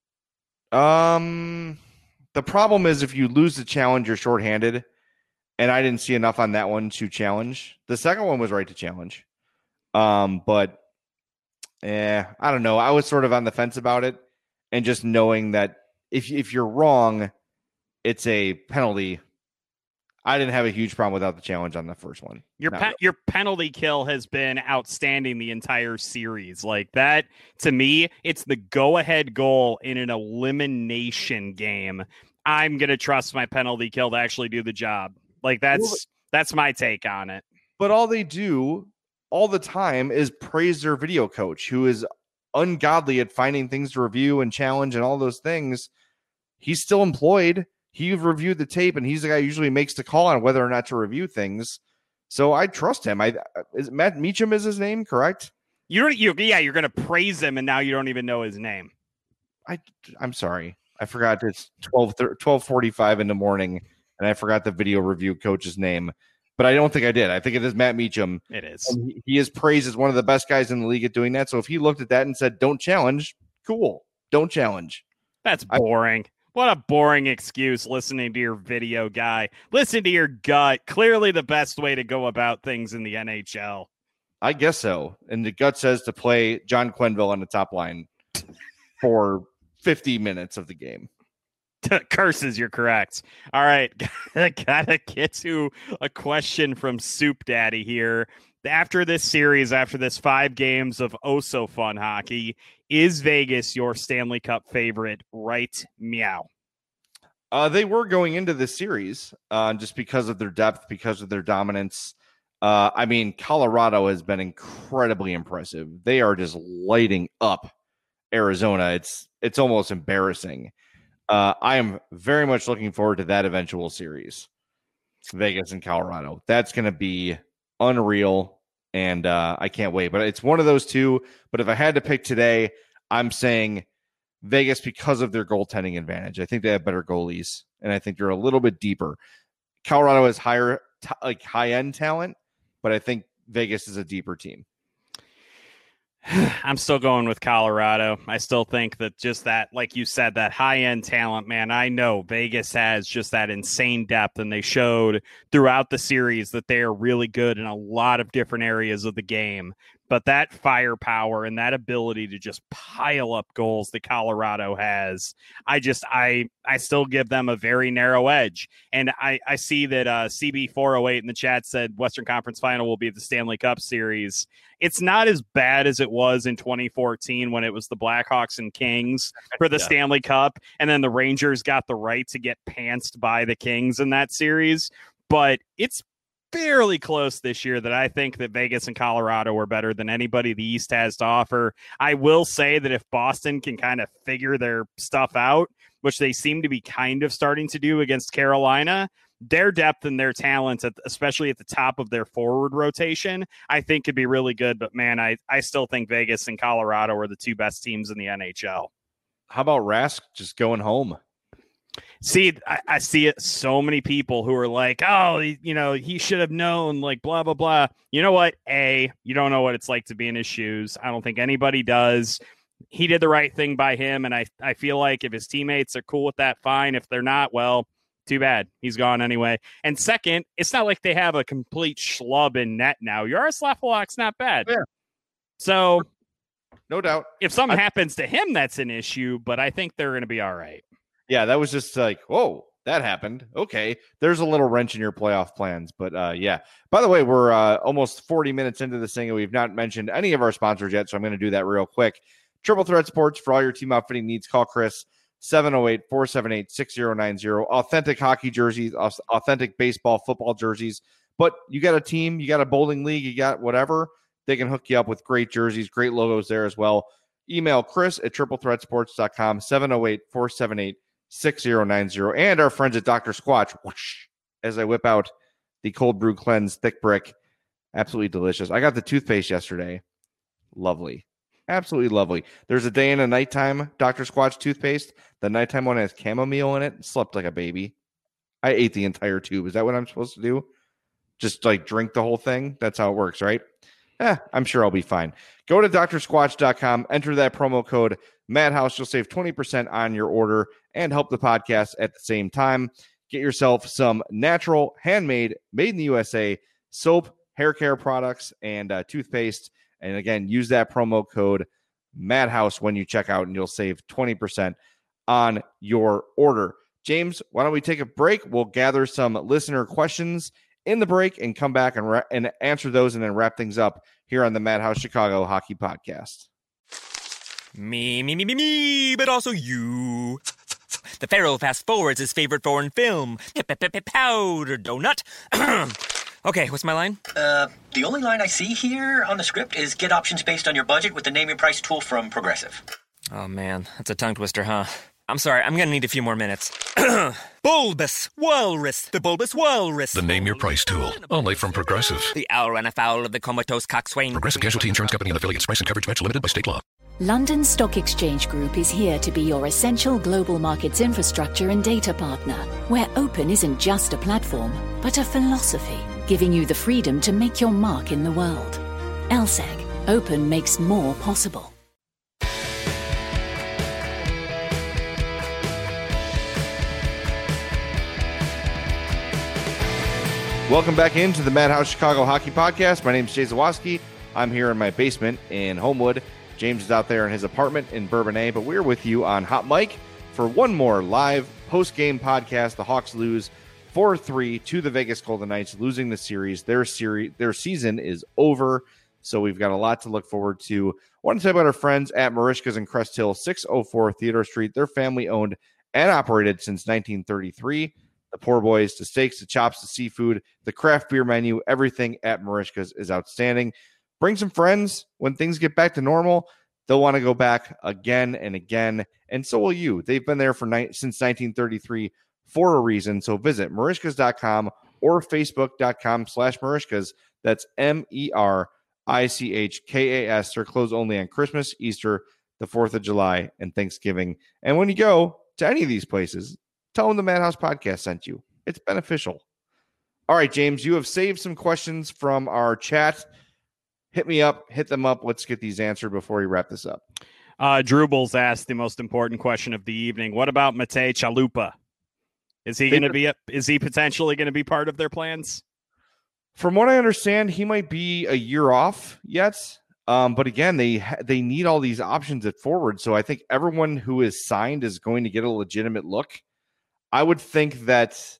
Um, the problem is if you lose the challenge, you're shorthanded, and I didn't see enough on that one to challenge. The second one was right to challenge. Um, but, eh, I don't know. I was sort of on the fence about it, and just knowing that if if you're wrong, it's a penalty. I didn't have a huge problem without the challenge on the first one. Your pe- really. Your penalty kill has been outstanding the entire series. Like that, to me, it's the go-ahead goal in an elimination game. I'm going to trust my penalty kill to actually do the job. Like that's well, that's my take on it. But all they do all the time is praise their video coach, who is ungodly at finding things to review and challenge and all those things. He's still employed. He reviewed the tape, and he's the guy who usually makes the call on whether or not to review things. So I trust him. I is Matt Meacham is his name, correct? You don't. You yeah. You're going to praise him, and now you don't even know his name. I I'm sorry. I forgot it's twelve forty-five in the morning, and I forgot the video review coach's name. But I don't think I did. I think it is Matt Meacham. It is. And he, he is praised as one of the best guys in the league at doing that. So if he looked at that and said, "Don't challenge," cool. Don't challenge. That's boring. I, What a boring excuse, listening to your video guy. Listen to your gut. Clearly the best way to go about things in the N H L. I guess so. And the gut says to play John Quenneville on the top line for fifty minutes of the game. Curses, you're correct. All right. Gotta get to a question from Soup Daddy here. After this series, after this five games of oh so fun hockey, is Vegas your Stanley Cup favorite? Right, meow. Uh, they were going into this series uh, just because of their depth, because of their dominance. Uh, I mean, Colorado has been incredibly impressive. They are just lighting up Arizona. It's it's almost embarrassing. Uh, I am very much looking forward to that eventual series, Vegas and Colorado. That's going to be unreal, and uh, I can't wait. But it's one of those two. But if I had to pick today, I'm saying Vegas because of their goaltending advantage. I think they have better goalies, and I think they're a little bit deeper. Colorado has higher, t- like high-end talent, but I think Vegas is a deeper team. I'm still going with Colorado. I still think that just that, like you said, that high-end talent, man, I know Vegas has just that insane depth, and they showed throughout the series that they are really good in a lot of different areas of the game. But that firepower and that ability to just pile up goals that Colorado has, I just, I I still give them a very narrow edge. And I, I see that uh, C B four oh eight in the chat said Western Conference Final will be the Stanley Cup Series. It's not as bad as it was in twenty fourteen when it was the Blackhawks and Kings for the yeah. Stanley Cup. And then the Rangers got the right to get pantsed by the Kings in that series. But it's fairly close this year that I think that Vegas and Colorado are better than anybody the East has to offer. I will say that if Boston can kind of figure their stuff out, which they seem to be kind of starting to do against Carolina, their depth and their talent, at, especially at the top of their forward rotation, I think could be really good. But man, I, I still think Vegas and Colorado are the two best teams in the N H L. How about Rask just going home? See, I, I see it. So many people who are like, oh, you know, he should have known, like, blah, blah, blah. You know what? A, you don't know what it's like to be in his shoes. I don't think anybody does. He did the right thing by him. And I, I feel like if his teammates are cool with that, fine. If they're not, well, too bad. He's gone anyway. And second, it's not like they have a complete schlub in net now. Yaroslav Halak's not bad. Yeah. So, no doubt. If something I, happens to him, that's an issue. But I think they're going to be all right. Yeah, that was just like, whoa, that happened. Okay, there's a little wrench in your playoff plans. But uh, yeah, by the way, we're uh, almost forty minutes into this thing, and we've not mentioned any of our sponsors yet, so I'm going to do that real quick. Triple Threat Sports, for all your team outfitting needs, call Chris, seven oh eight, four seven eight, six oh nine oh. Authentic hockey jerseys, authentic baseball, football jerseys. But you got a team, you got a bowling league, you got whatever, they can hook you up with great jerseys, great logos there as well. Email Chris at triple threat sports dot com, seven oh eight, four seven eight, six oh nine oh, and our friends at Doctor Squatch, whoosh, as I whip out the cold brew cleanse thick brick. Absolutely delicious. I got the toothpaste yesterday. Lovely. Absolutely lovely. There's a day and a nighttime Doctor Squatch toothpaste. The nighttime one has chamomile in it. Slept like a baby. I ate the entire tube. Is that what I'm supposed to do? Just like drink the whole thing? That's how it works, right? Eh, I'm sure I'll be fine. Go to doctor squatch dot com, enter that promo code Madhouse. You'll save twenty percent on your order and help the podcast at the same time. Get yourself some natural, handmade, made in the U S A soap, hair care products, and uh, toothpaste. And again, use that promo code Madhouse when you check out, and you'll save twenty percent on your order. James, why don't we take a break? We'll gather some listener questions in the break and come back and, ra- and answer those and then wrap things up here on the Madhouse Chicago Hockey Podcast. Me, me, me, me, me, but also you. The Pharaoh fast forwards his favorite foreign film, Powder Donut. Okay, what's my line? Uh, the only line I see here on the script is get options based on your budget with the Name Your Price tool from Progressive. Oh, man, that's a tongue twister, huh? I'm sorry, I'm gonna need a few more minutes. Bulbous Walrus, the Bulbous Walrus. The Name Your Price tool, only from Progressive. The owl ran afoul of the comatose coxswain. Progressive Casualty Insurance Company and affiliates. Price and coverage match limited by state law. London Stock Exchange Group is here to be your essential global markets infrastructure and data partner, where open isn't just a platform, but a philosophy, giving you the freedom to make your mark in the world. L S E C, open makes more possible. Welcome back into the Madhouse Chicago Hockey Podcast. My name is Jay Zawoski. I'm here in my basement in Homewood. James is out there in his apartment in Bourbonnais, but we're with you on Hot Mic for one more live post-game podcast. The Hawks lose four three to the Vegas Golden Knights, losing the series. Their series, their season is over, so we've got a lot to look forward to. I want to tell you about our friends at Marishka's in Crest Hill, six oh four Theodore Street. They're family-owned and operated since nineteen thirty-three. The poor boys, the steaks, the chops, the seafood, the craft beer menu, everything at Merichka's is outstanding. Bring some friends. When things get back to normal, they'll want to go back again and again, and so will you. They've been there for ni- since nineteen thirty-three for a reason, so visit Merichkas dot com or Facebook dot com slash Merichkas. That's M E R I C H K A S. They're closed only on Christmas, Easter, the fourth of July, and Thanksgiving. And when you go to any of these places, tell them the Madhouse Podcast sent you. It's beneficial. All right, James, you have saved some questions from our chat. Hit me up, hit them up. Let's get these answered before we wrap this up. Uh, Drubel's asked the most important question of the evening. What about Matej Chalupa? Is he going to be? A, is he potentially going to be part of their plans? From what I understand, he might be a year off yet. Um, but again, they they need all these options at forward. So I think everyone who is signed is going to get a legitimate look. I would think that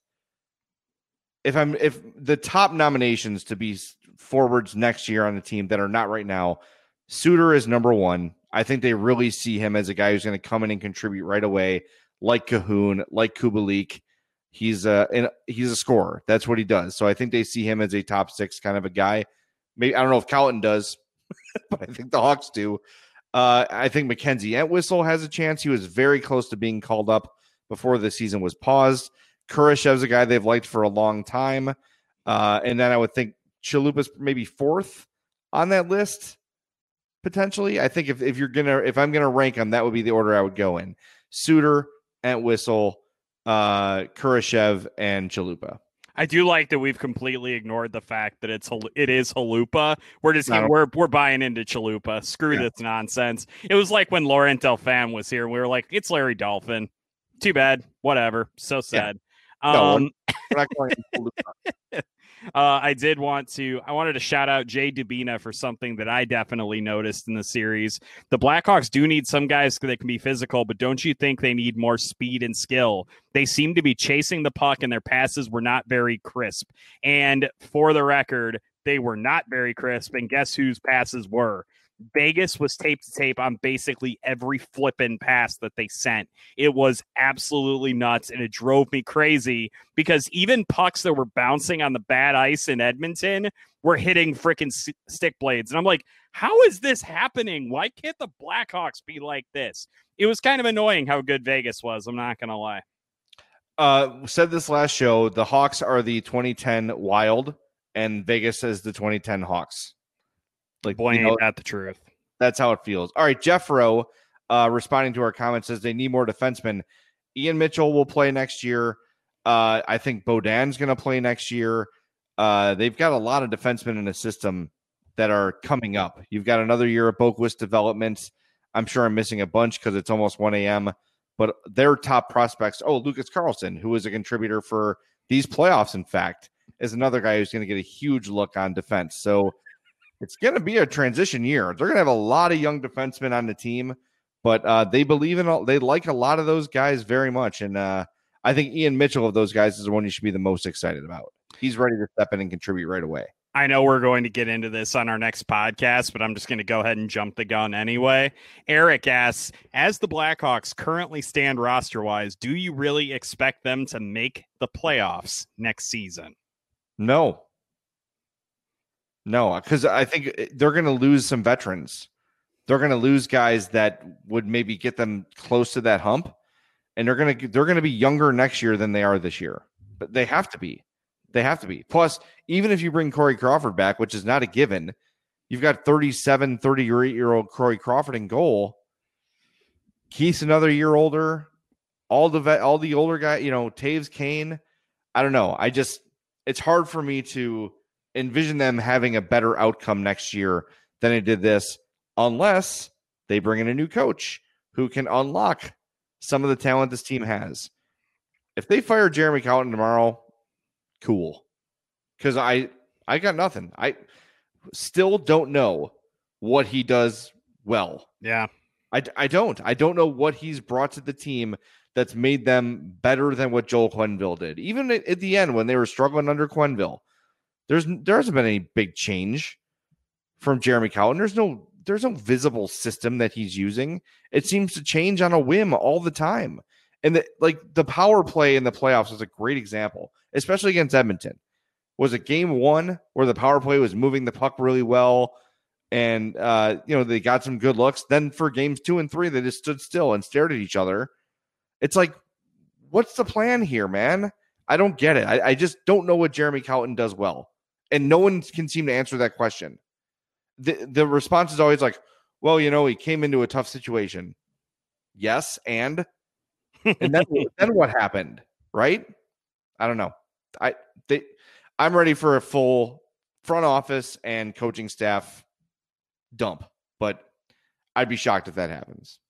if I'm if the top nominations to be forwards next year on the team that are not right now, Suter is number one. I think they really see him as a guy who's going to come in and contribute right away, like Cahoon, like Kubalik. He's a he's a scorer. That's what he does. So I think they see him as a top six kind of a guy. Maybe I don't know if Colton does, but I think the Hawks do. Uh, I think Mackenzie Entwistle has a chance. He was very close to being called up before the season was paused. Kurashev's a guy they've liked for a long time. Uh, and then I would think Chalupa's maybe fourth on that list, potentially. I think if, if you're gonna if I'm gonna rank them, that would be the order I would go in. Suter, Entwistle, uh, Kurashev, and Chalupa. I do like that we've completely ignored the fact that it's it is Chalupa. We're just getting, we're we're buying into Chalupa. Screw yeah. this nonsense. It was like when Laurent Delphine was here. We were like, it's Larry Dolphin. Too bad. Whatever. So sad. Yeah. No, um, we're not going uh, I did want to, I wanted to shout out Jay Dubina for something that I definitely noticed in the series. The Blackhawks do need some guys that can be physical, but don't you think they need more speed and skill? They seem to be chasing the puck and their passes were not very crisp. And for the record, they were not very crisp. And guess whose passes were? Vegas was tape to tape on basically every flippin' pass that they sent. It was absolutely nuts, and it drove me crazy because even pucks that were bouncing on the bad ice in Edmonton were hitting freaking s- stick blades. And I'm like, how is this happening? Why can't the Blackhawks be like this? It was kind of annoying how good Vegas was. I'm not going to lie. Uh, said this last show, the Hawks are the twenty ten Wild, and Vegas is the twenty ten Hawks. Like, boy, ain't that the truth. That's how it feels. All right, Jeff Rowe, uh, responding to our comments, says they need more defensemen. Ian Mitchell will play next year. Uh, I think Beaudin's going to play next year. Uh, they've got a lot of defensemen in the system that are coming up. You've got another year of Boquist development. I'm sure I'm missing a bunch because it's almost one a.m., but their top prospects, oh, Lucas Carlson, who is a contributor for these playoffs, in fact, is another guy who's going to get a huge look on defense. So it's going to be a transition year. They're going to have a lot of young defensemen on the team, but uh, they believe in all, they like a lot of those guys very much. And uh, I think Ian Mitchell of those guys is the one you should be the most excited about. He's ready to step in and contribute right away. I know we're going to get into this on our next podcast, but I'm just going to go ahead and jump the gun anyway. Eric asks, as the Blackhawks currently stand roster-wise, do you really expect them to make the playoffs next season? No. No, because I think they're going to lose some veterans. They're going to lose guys that would maybe get them close to that hump, and they're going to they're going to be younger next year than they are this year. But they have to be. They have to be. Plus, even if you bring Corey Crawford back, which is not a given, you've got thirty-seven, thirty-eight-year-old Corey Crawford in goal. Keith's another year older. All the vet, all the older guy, you know, Taves, Kane. I don't know. I just it's hard for me to envision them having a better outcome next year than they did this, unless they bring in a new coach who can unlock some of the talent this team has. If they fire Jeremy Colton tomorrow, cool. Because I I got nothing. I still don't know what he does well. Yeah. I, I don't. I don't know what he's brought to the team that's made them better than what Joel Quenneville did. Even at, at the end when they were struggling under Quenneville, There's there hasn't been any big change from Jeremy Colton. There's no there's no visible system that he's using. It seems to change on a whim all the time. And the, like the power play in the playoffs was a great example, especially against Edmonton. Was it game one where the power play was moving the puck really well and, uh, you know, they got some good looks. Then for games two and three, they just stood still and stared at each other. It's like, what's the plan here, man? I don't get it. I, I just don't know what Jeremy Colliton does well. And no one can seem to answer that question. The, the response is always like, well, you know, he came into a tough situation. Yes, and... and then, then what happened, right? I don't know. I they, I'm ready for a full front office and coaching staff dump, but I'd be shocked if that happens.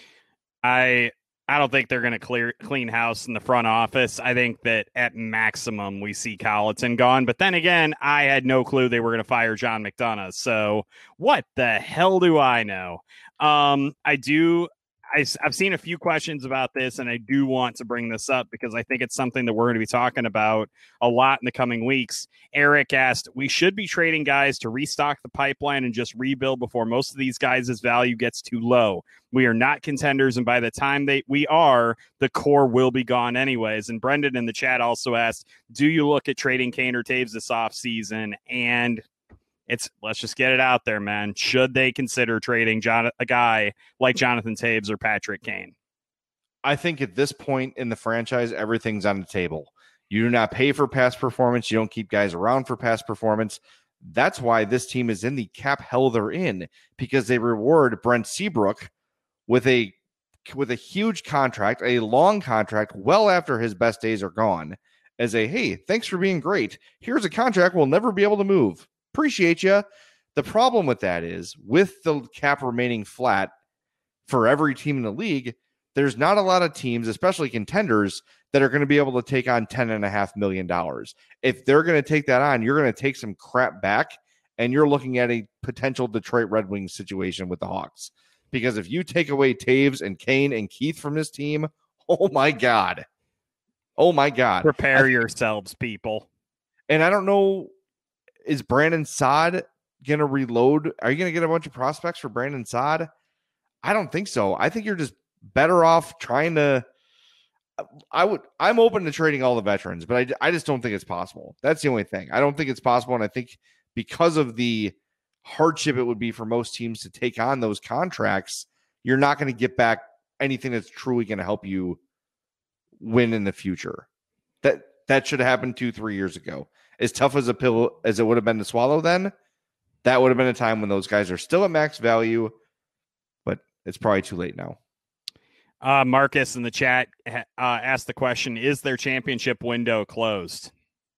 I I don't think they're going to clear clean house in the front office. I think that at maximum we see Colliton gone. But then again, I had no clue they were going to fire John McDonough. So what the hell do I know? Um, I do. I, I've seen a few questions about this, and I do want to bring this up because I think it's something that we're going to be talking about a lot in the coming weeks. Eric asked, we should be trading guys to restock the pipeline and just rebuild before most of these guys' value gets too low. We are not contenders, and by the time they we are, the core will be gone anyways. And Brendan in the chat also asked, do you look at trading Kane or Taves this offseason? And It's let's just get it out there, man. Should they consider trading John, a guy like Jonathan Taves or Patrick Kane? I think at this point in the franchise, everything's on the table. You do not pay for past performance. You don't keep guys around for past performance. That's why this team is in the cap hell they're in, because they reward Brent Seabrook with a with a huge contract, a long contract, well after his best days are gone, as a, hey, thanks for being great. Here's a contract we'll never be able to move. Appreciate you. The problem with that is, with the cap remaining flat for every team in the league, there's not a lot of teams, especially contenders, that are going to be able to take on ten point five million dollars. If they're going to take that on, you're going to take some crap back, and you're looking at a potential Detroit Red Wings situation with the Hawks. Because if you take away Taves and Kane and Keith from this team, oh my God. Oh my God. Prepare I, yourselves, people. And I don't know, is Brandon Saad going to reload? Are you going to get a bunch of prospects for Brandon Saad? I don't think so. I think you're just better off trying to, I would, I'm open to trading all the veterans, but I, I just don't think it's possible. That's the only thing. I don't think it's possible. And I think because of the hardship it would be for most teams to take on those contracts, you're not going to get back anything that's truly going to help you win in the future. That, that should have happened two, three years ago. As tough as a pill as it would have been to swallow then, that would have been a time when those guys are still at max value, but it's probably too late now. Uh, Marcus in the chat uh, asked the question, is their championship window closed?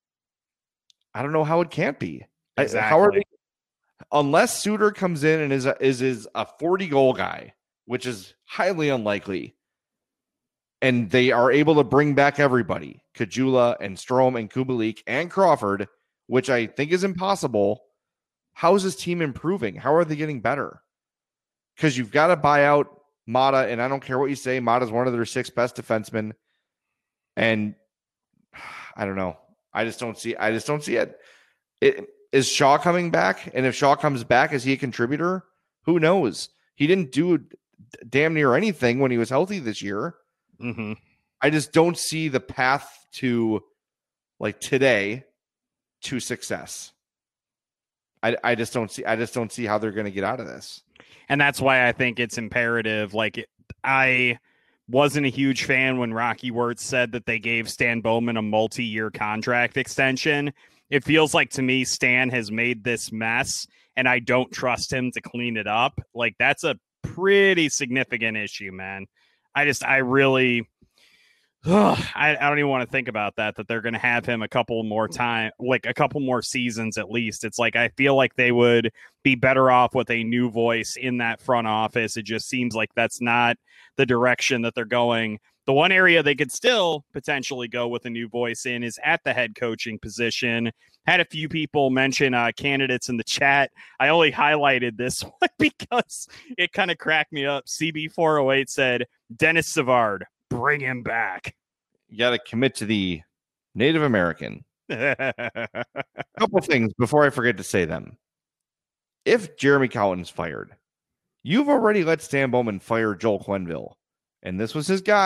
I don't know how it can't be. Exactly. I, how are they, unless Suter comes in and is a, is, is a forty-goal guy, which is highly unlikely, and they are able to bring back everybody, Kajula and Strome and Kubalik and Crawford, which I think is impossible. How is this team improving? How are they getting better? Because you've got to buy out Mata, and I don't care what you say, Mata's one of their six best defensemen. And I don't know. I just don't see I just don't see it. it. Is Shaw coming back? And if Shaw comes back, is he a contributor? Who knows? He didn't do damn near anything when he was healthy this year. Mm-hmm. I just don't see the path to, like today, to success. I, I just don't see. I just don't see how they're going to get out of this. And that's why I think it's imperative. Like it, I wasn't a huge fan when Rocky Wirtz said that they gave Stan Bowman a multi-year contract extension. It feels like to me, Stan has made this mess, and I don't trust him to clean it up. Like that's a pretty significant issue, man. I just, I really, ugh, I, I don't even want to think about that, that they're going to have him a couple more time, like a couple more seasons at least. It's like, I feel like they would be better off with a new voice in that front office. It just seems like that's not the direction that they're going. The one area they could still potentially go with a new voice in is at the head coaching position. Had a few people mention uh, candidates in the chat. I only highlighted this one because it kind of cracked me up. C B four oh eight said, Dennis Savard, bring him back. You got to commit to the Native American. A couple things before I forget to say them. If Jeremy Colliton's fired, you've already let Stan Bowman fire Joel Quenneville, and this was his guy.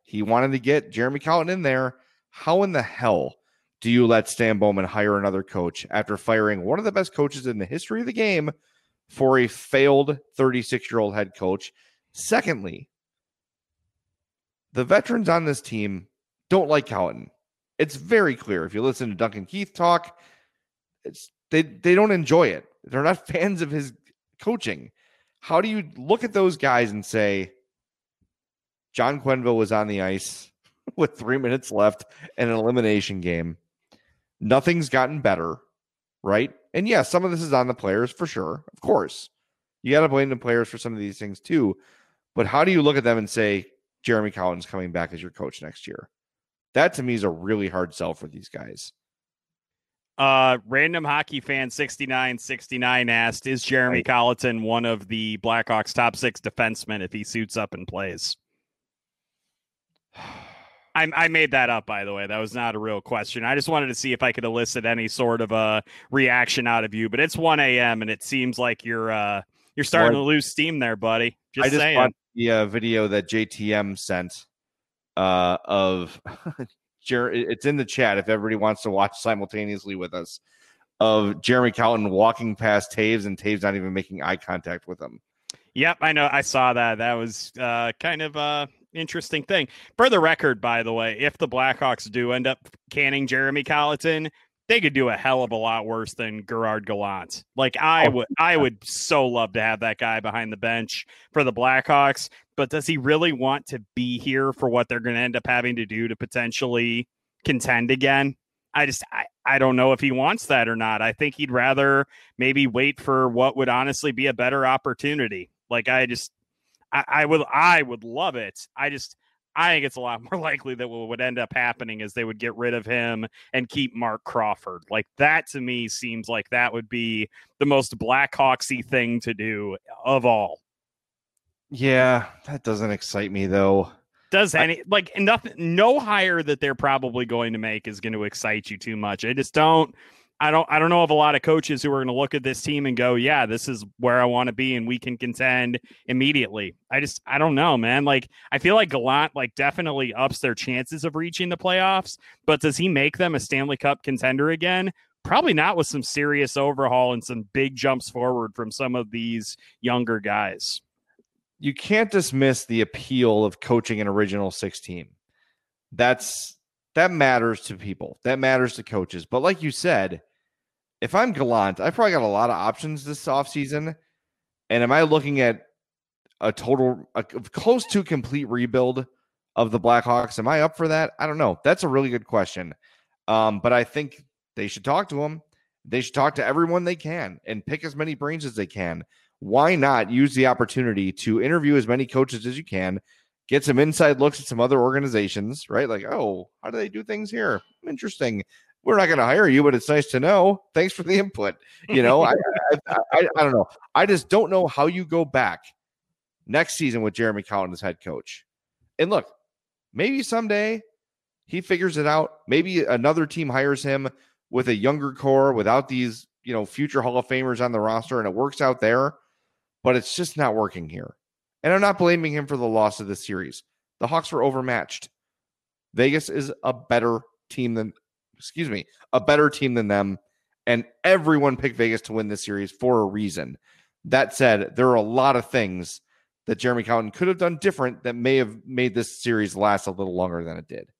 He wanted to get Jeremy Colliton in there. How in the hell do you let Stan Bowman hire another coach after firing one of the best coaches in the history of the game for a failed thirty-six-year-old head coach? Secondly, the veterans on this team don't like Colliton. It's very clear. If you listen to Duncan Keith talk, it's they they don't enjoy it. They're not fans of his coaching. How do you look at those guys and say, John Quenneville was on the ice with three minutes left in an elimination game. Nothing's gotten better, right? And yeah, some of this is on the players for sure. Of course. You got to blame the players for some of these things too. But how do you look at them and say, Jeremy Colliton's coming back as your coach next year? That to me is a really hard sell for these guys. Uh, random hockey fan sixty-nine sixty-nine asked, is Jeremy right. Colliton one of the Blackhawks top six defensemen if he suits up and plays? I, I made that up, by the way. That was not a real question. I just wanted to see if I could elicit any sort of a reaction out of you. But it's one a.m. and it seems like you're uh, you're starting well, to lose steam there, buddy. Just I just saying. watched the uh, video that J T M sent uh, of it's in the chat if everybody wants to watch simultaneously with us, of Jeremy Colliton walking past Taves and Taves not even making eye contact with him. Yep, I know. I saw that. That was uh, kind of uh interesting thing. For the record, by the way, if the Blackhawks do end up canning Jeremy Colliton, they could do a hell of a lot worse than Gerard Gallant. Like I would, I would so love to have that guy behind the bench for the Blackhawks. But does he really want to be here for what they're going to end up having to do to potentially contend again? I just, I, I don't know if he wants that or not. I think he'd rather maybe wait for what would honestly be a better opportunity. Like I just, I, I would, I would love it. I just, I think it's a lot more likely that what would end up happening is they would get rid of him and keep Mark Crawford. Like that to me seems like that would be the most Blackhawksy thing to do of all. Yeah, that doesn't excite me though. Does any like nothing? No hire that they're probably going to make is going to excite you too much. I just don't. I don't. I don't know of a lot of coaches who are going to look at this team and go, "Yeah, this is where I want to be, and we can contend immediately." I just. I don't know, man. Like I feel like Gallant like definitely ups their chances of reaching the playoffs, but does he make them a Stanley Cup contender again? Probably not, with some serious overhaul and some big jumps forward from some of these younger guys. You can't dismiss the appeal of coaching an original six team. That's that matters to people. That matters to coaches. But like you said, if I'm Gallant, I probably got a lot of options this offseason. And am I looking at a total, a close to complete rebuild of the Blackhawks? Am I up for that? I don't know. That's a really good question. Um, but I think they should talk to him. They should talk to everyone they can and pick as many brains as they can. Why not use the opportunity to interview as many coaches as you can, get some inside looks at some other organizations, right? Like, oh, how do they do things here? Interesting. We're not going to hire you, but it's nice to know. Thanks for the input. You know, I, I, I, I don't know. I just don't know how you go back next season with Jeremy Colliton as head coach. And look, maybe someday he figures it out. Maybe another team hires him with a younger core without these, you know, future Hall of Famers on the roster, and it works out there. But it's just not working here. And I'm not blaming him for the loss of the series. The Hawks were overmatched. Vegas is a better team than, excuse me, a better team than them. And everyone picked Vegas to win this series for a reason. That said, there are a lot of things that Jeremy Colliton could have done different that may have made this series last a little longer than it did.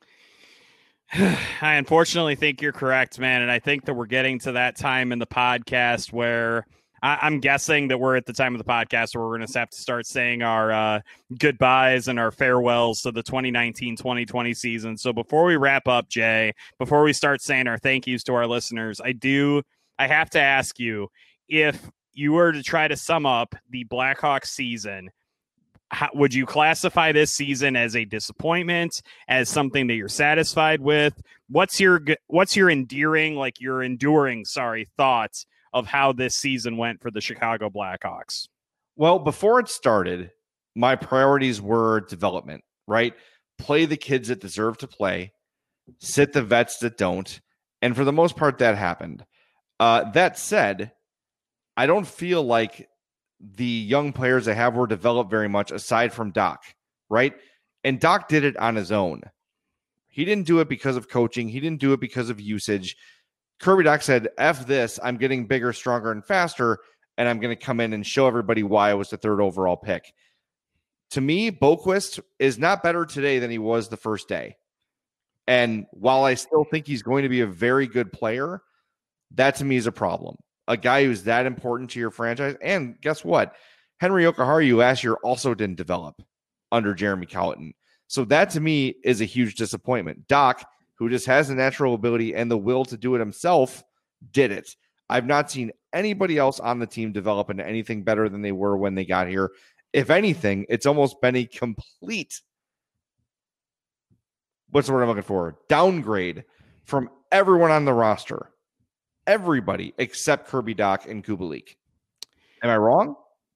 I unfortunately think you're correct, man. And I think that we're getting to that time in the podcast where I, I'm guessing that we're at the time of the podcast where we're going to have to start saying our uh, goodbyes and our farewells to the twenty nineteen twenty twenty season. So before we wrap up, Jay, before we start saying our thank yous to our listeners, I do, I have to ask you, if you were to try to sum up the Blackhawks season, how, would you classify this season as a disappointment, as something that you're satisfied with? What's your, what's your endearing, like your enduring, sorry, thoughts of how this season went for the Chicago Blackhawks? Well, before it started, my priorities were development, right? Play the kids that deserve to play, sit the vets that don't. And for the most part, that happened. Uh, that said, I don't feel like the young players I have were developed very much aside from Doc, right? And Doc did it on his own. He didn't do it because of coaching. He didn't do it because of usage. Kirby Doc said, F this, I'm getting bigger, stronger, and faster, and I'm going to come in and show everybody why I was the third overall pick. To me, Boqvist is not better today than he was the first day. And while I still think he's going to be a very good player, that to me is a problem. A guy who's that important to your franchise. And guess what? Henry Jokiharju last year also didn't develop under Jeremy Colliton. So that to me is a huge disappointment. Doc, who just has the natural ability and the will to do it himself, did it. I've not seen anybody else on the team develop into anything better than they were when they got here. If anything, it's almost been a complete, what's the word I'm looking for? Downgrade from everyone on the roster. Everybody except Kirby Doc and Kubalik. Am I wrong?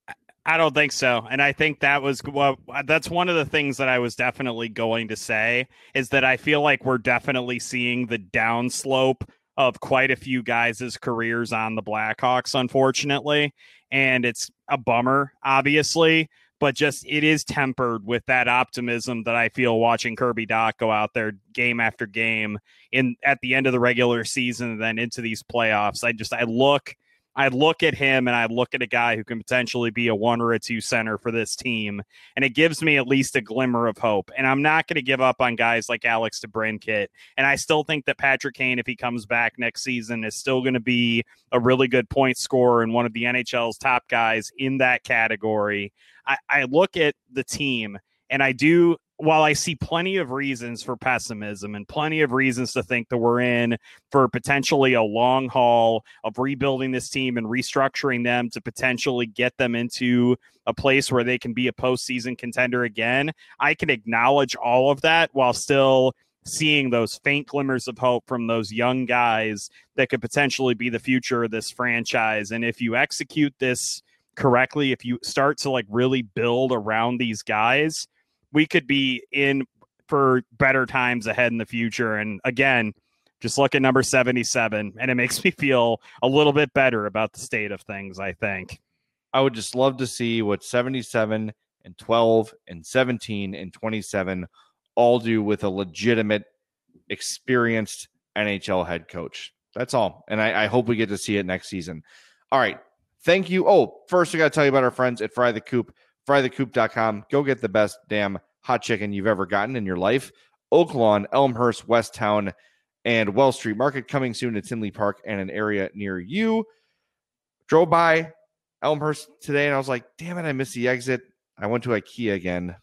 I don't think so. And I think that was well, that's one of the things that I was definitely going to say is that I feel like we're definitely seeing the downslope of quite a few guys' careers on the Blackhawks, unfortunately. And it's a bummer, obviously, but just it is tempered with that optimism that I feel watching Kirby Doc go out there game after game in at the end of the regular season and then into these playoffs. I just I look I look at him and I look at a guy who can potentially be a one or a two center for this team. And it gives me at least a glimmer of hope. And I'm not going to give up on guys like Alex DeBrincat. And I still think that Patrick Kane, if he comes back next season, is still going to be a really good point scorer and one of the N H L's top guys in that category. I, I look at the team and I do, while I see plenty of reasons for pessimism and plenty of reasons to think that we're in for potentially a long haul of rebuilding this team and restructuring them to potentially get them into a place where they can be a postseason contender again, I can acknowledge all of that while still seeing those faint glimmers of hope from those young guys that could potentially be the future of this franchise. And if you execute this correctly, if you start to like really build around these guys, we could be in for better times ahead in the future. And again, just look at number seventy-seven, and it makes me feel a little bit better about the state of things, I think. I would just love to see what seventy-seven and twelve and seventeen and twenty-seven all do with a legitimate, experienced N H L head coach. That's all. And I, I hope we get to see it next season. All right. Thank you. Oh, first we got to tell you about our friends at Fry the Coop. fry the coop dot com. Go get the best damn hot chicken you've ever gotten in your life. Oaklawn, Elmhurst, Westtown, and Wells Street Market coming soon to Tinley Park and an area near you. Drove by Elmhurst today and I was like, damn it, I missed the exit. I went to IKEA again.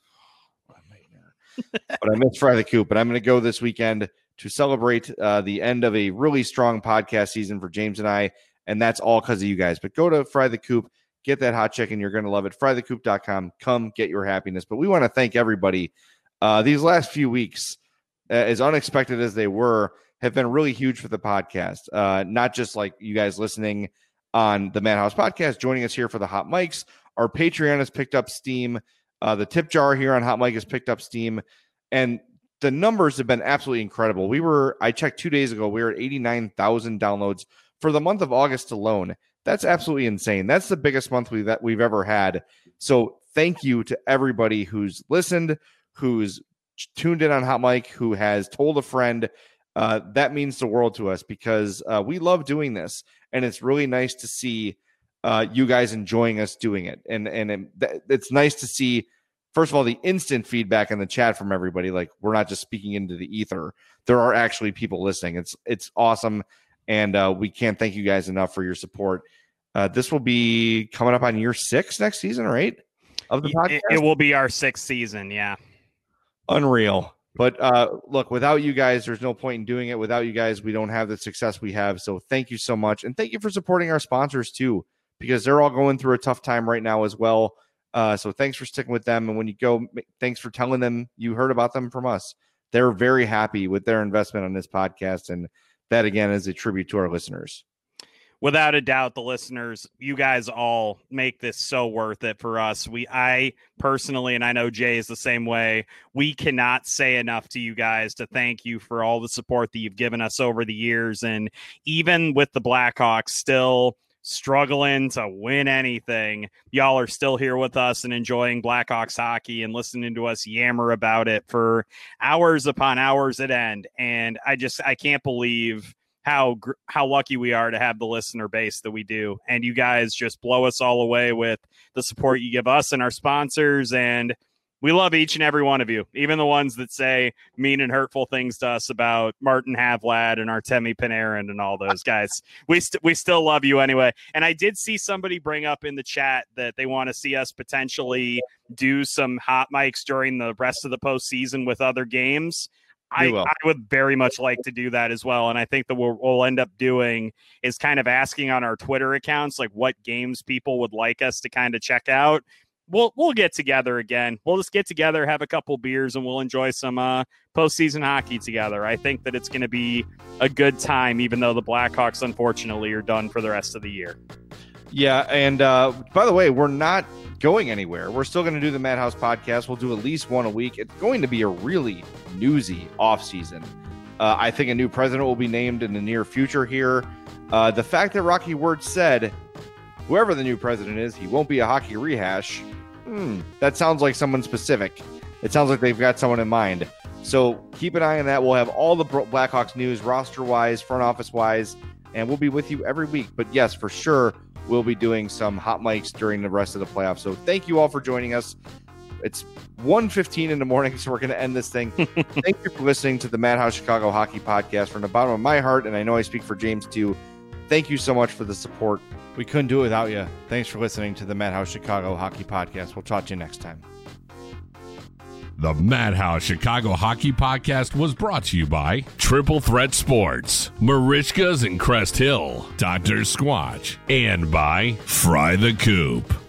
But I missed Fry the Coop. But I'm going to go this weekend to celebrate uh, the end of a really strong podcast season for James and I. And that's all because of you guys. But go to Fry the Coop. Get that hot chicken. You're going to love it. fry the coop dot com. Come get your happiness. But we want to thank everybody. Uh, these last few weeks, uh, as unexpected as they were, have been really huge for the podcast. Uh, not just like you guys listening on the Madhouse podcast, joining us here for the Hot Mics. Our Patreon has picked up steam. Uh, the tip jar here on Hot Mic has picked up steam. And the numbers have been absolutely incredible. We were, I checked two days ago, we were at eighty-nine thousand downloads for the month of August alone. That's absolutely insane. That's the biggest month we've, that we've ever had. So thank you to everybody who's listened, who's tuned in on Hot Mic, who has told a friend. Uh, that means the world to us because uh, we love doing this. And it's really nice to see uh, you guys enjoying us doing it. And, and it, it's nice to see, first of all, the instant feedback in the chat from everybody. Like, we're not just speaking into the ether. There are actually people listening. It's, it's awesome. And uh, we can't thank you guys enough for your support. Uh, this will be coming up on year six next season, right? Of the podcast? It, it will be our sixth season, yeah. Unreal. But uh, look, without you guys, there's no point in doing it. Without you guys, we don't have the success we have. So thank you so much. And thank you for supporting our sponsors too, because they're all going through a tough time right now as well. Uh, so thanks for sticking with them. And when you go, thanks for telling them you heard about them from us. They're very happy with their investment on this podcast. And that, again, is a tribute to our listeners. Without a doubt, the listeners, you guys all make this so worth it for us. We, I personally, and I know Jay is the same way, we cannot say enough to you guys to thank you for all the support that you've given us over the years. And even with the Blackhawks still struggling to win anything, y'all are still here with us and enjoying Blackhawks hockey and listening to us yammer about it for hours upon hours at end. And I just, I can't believe how, how lucky we are to have the listener base that we do. And you guys just blow us all away with the support you give us and our sponsors. And we love each and every one of you, even the ones that say mean and hurtful things to us about Martin Havlad and Artemi Panarin and all those guys. We st- we still love you anyway. And I did see somebody bring up in the chat that they want to see us potentially do some hot mics during the rest of the postseason with other games. I, I would very much like to do that as well. And I think that what we'll end up doing is kind of asking on our Twitter accounts, like what games people would like us to kind of check out. We'll we'll get together again. We'll just get together, have a couple beers, and we'll enjoy some uh, postseason hockey together. I think that it's going to be a good time, even though the Blackhawks, unfortunately, are done for the rest of the year. Yeah, and uh, by the way, we're not going anywhere. We're still going to do the Madhouse podcast. We'll do at least one a week. It's going to be a really newsy offseason. Uh, I think a new president will be named in the near future here. Uh, the fact that Rocky Ward said, whoever the new president is, he won't be a hockey rehash. Hmm, that sounds like someone specific. It sounds like they've got someone in mind. So keep an eye on that. We'll have all the Blackhawks news, roster-wise, front office-wise, and we'll be with you every week. But yes, for sure, we'll be doing some hot mics during the rest of the playoffs. So thank you all for joining us. It's one fifteen in the morning, so we're going to end this thing. Thank you for listening to the Madhouse Chicago Hockey Podcast. From the bottom of my heart, and I know I speak for James too, thank you so much for the support. We couldn't do it without you. Thanks for listening to the Madhouse Chicago Hockey Podcast. We'll talk to you next time. The Madhouse Chicago Hockey Podcast was brought to you by Triple Threat Sports, Marishkas and Crest Hill, Doctor Squatch, and by Fry the Coop.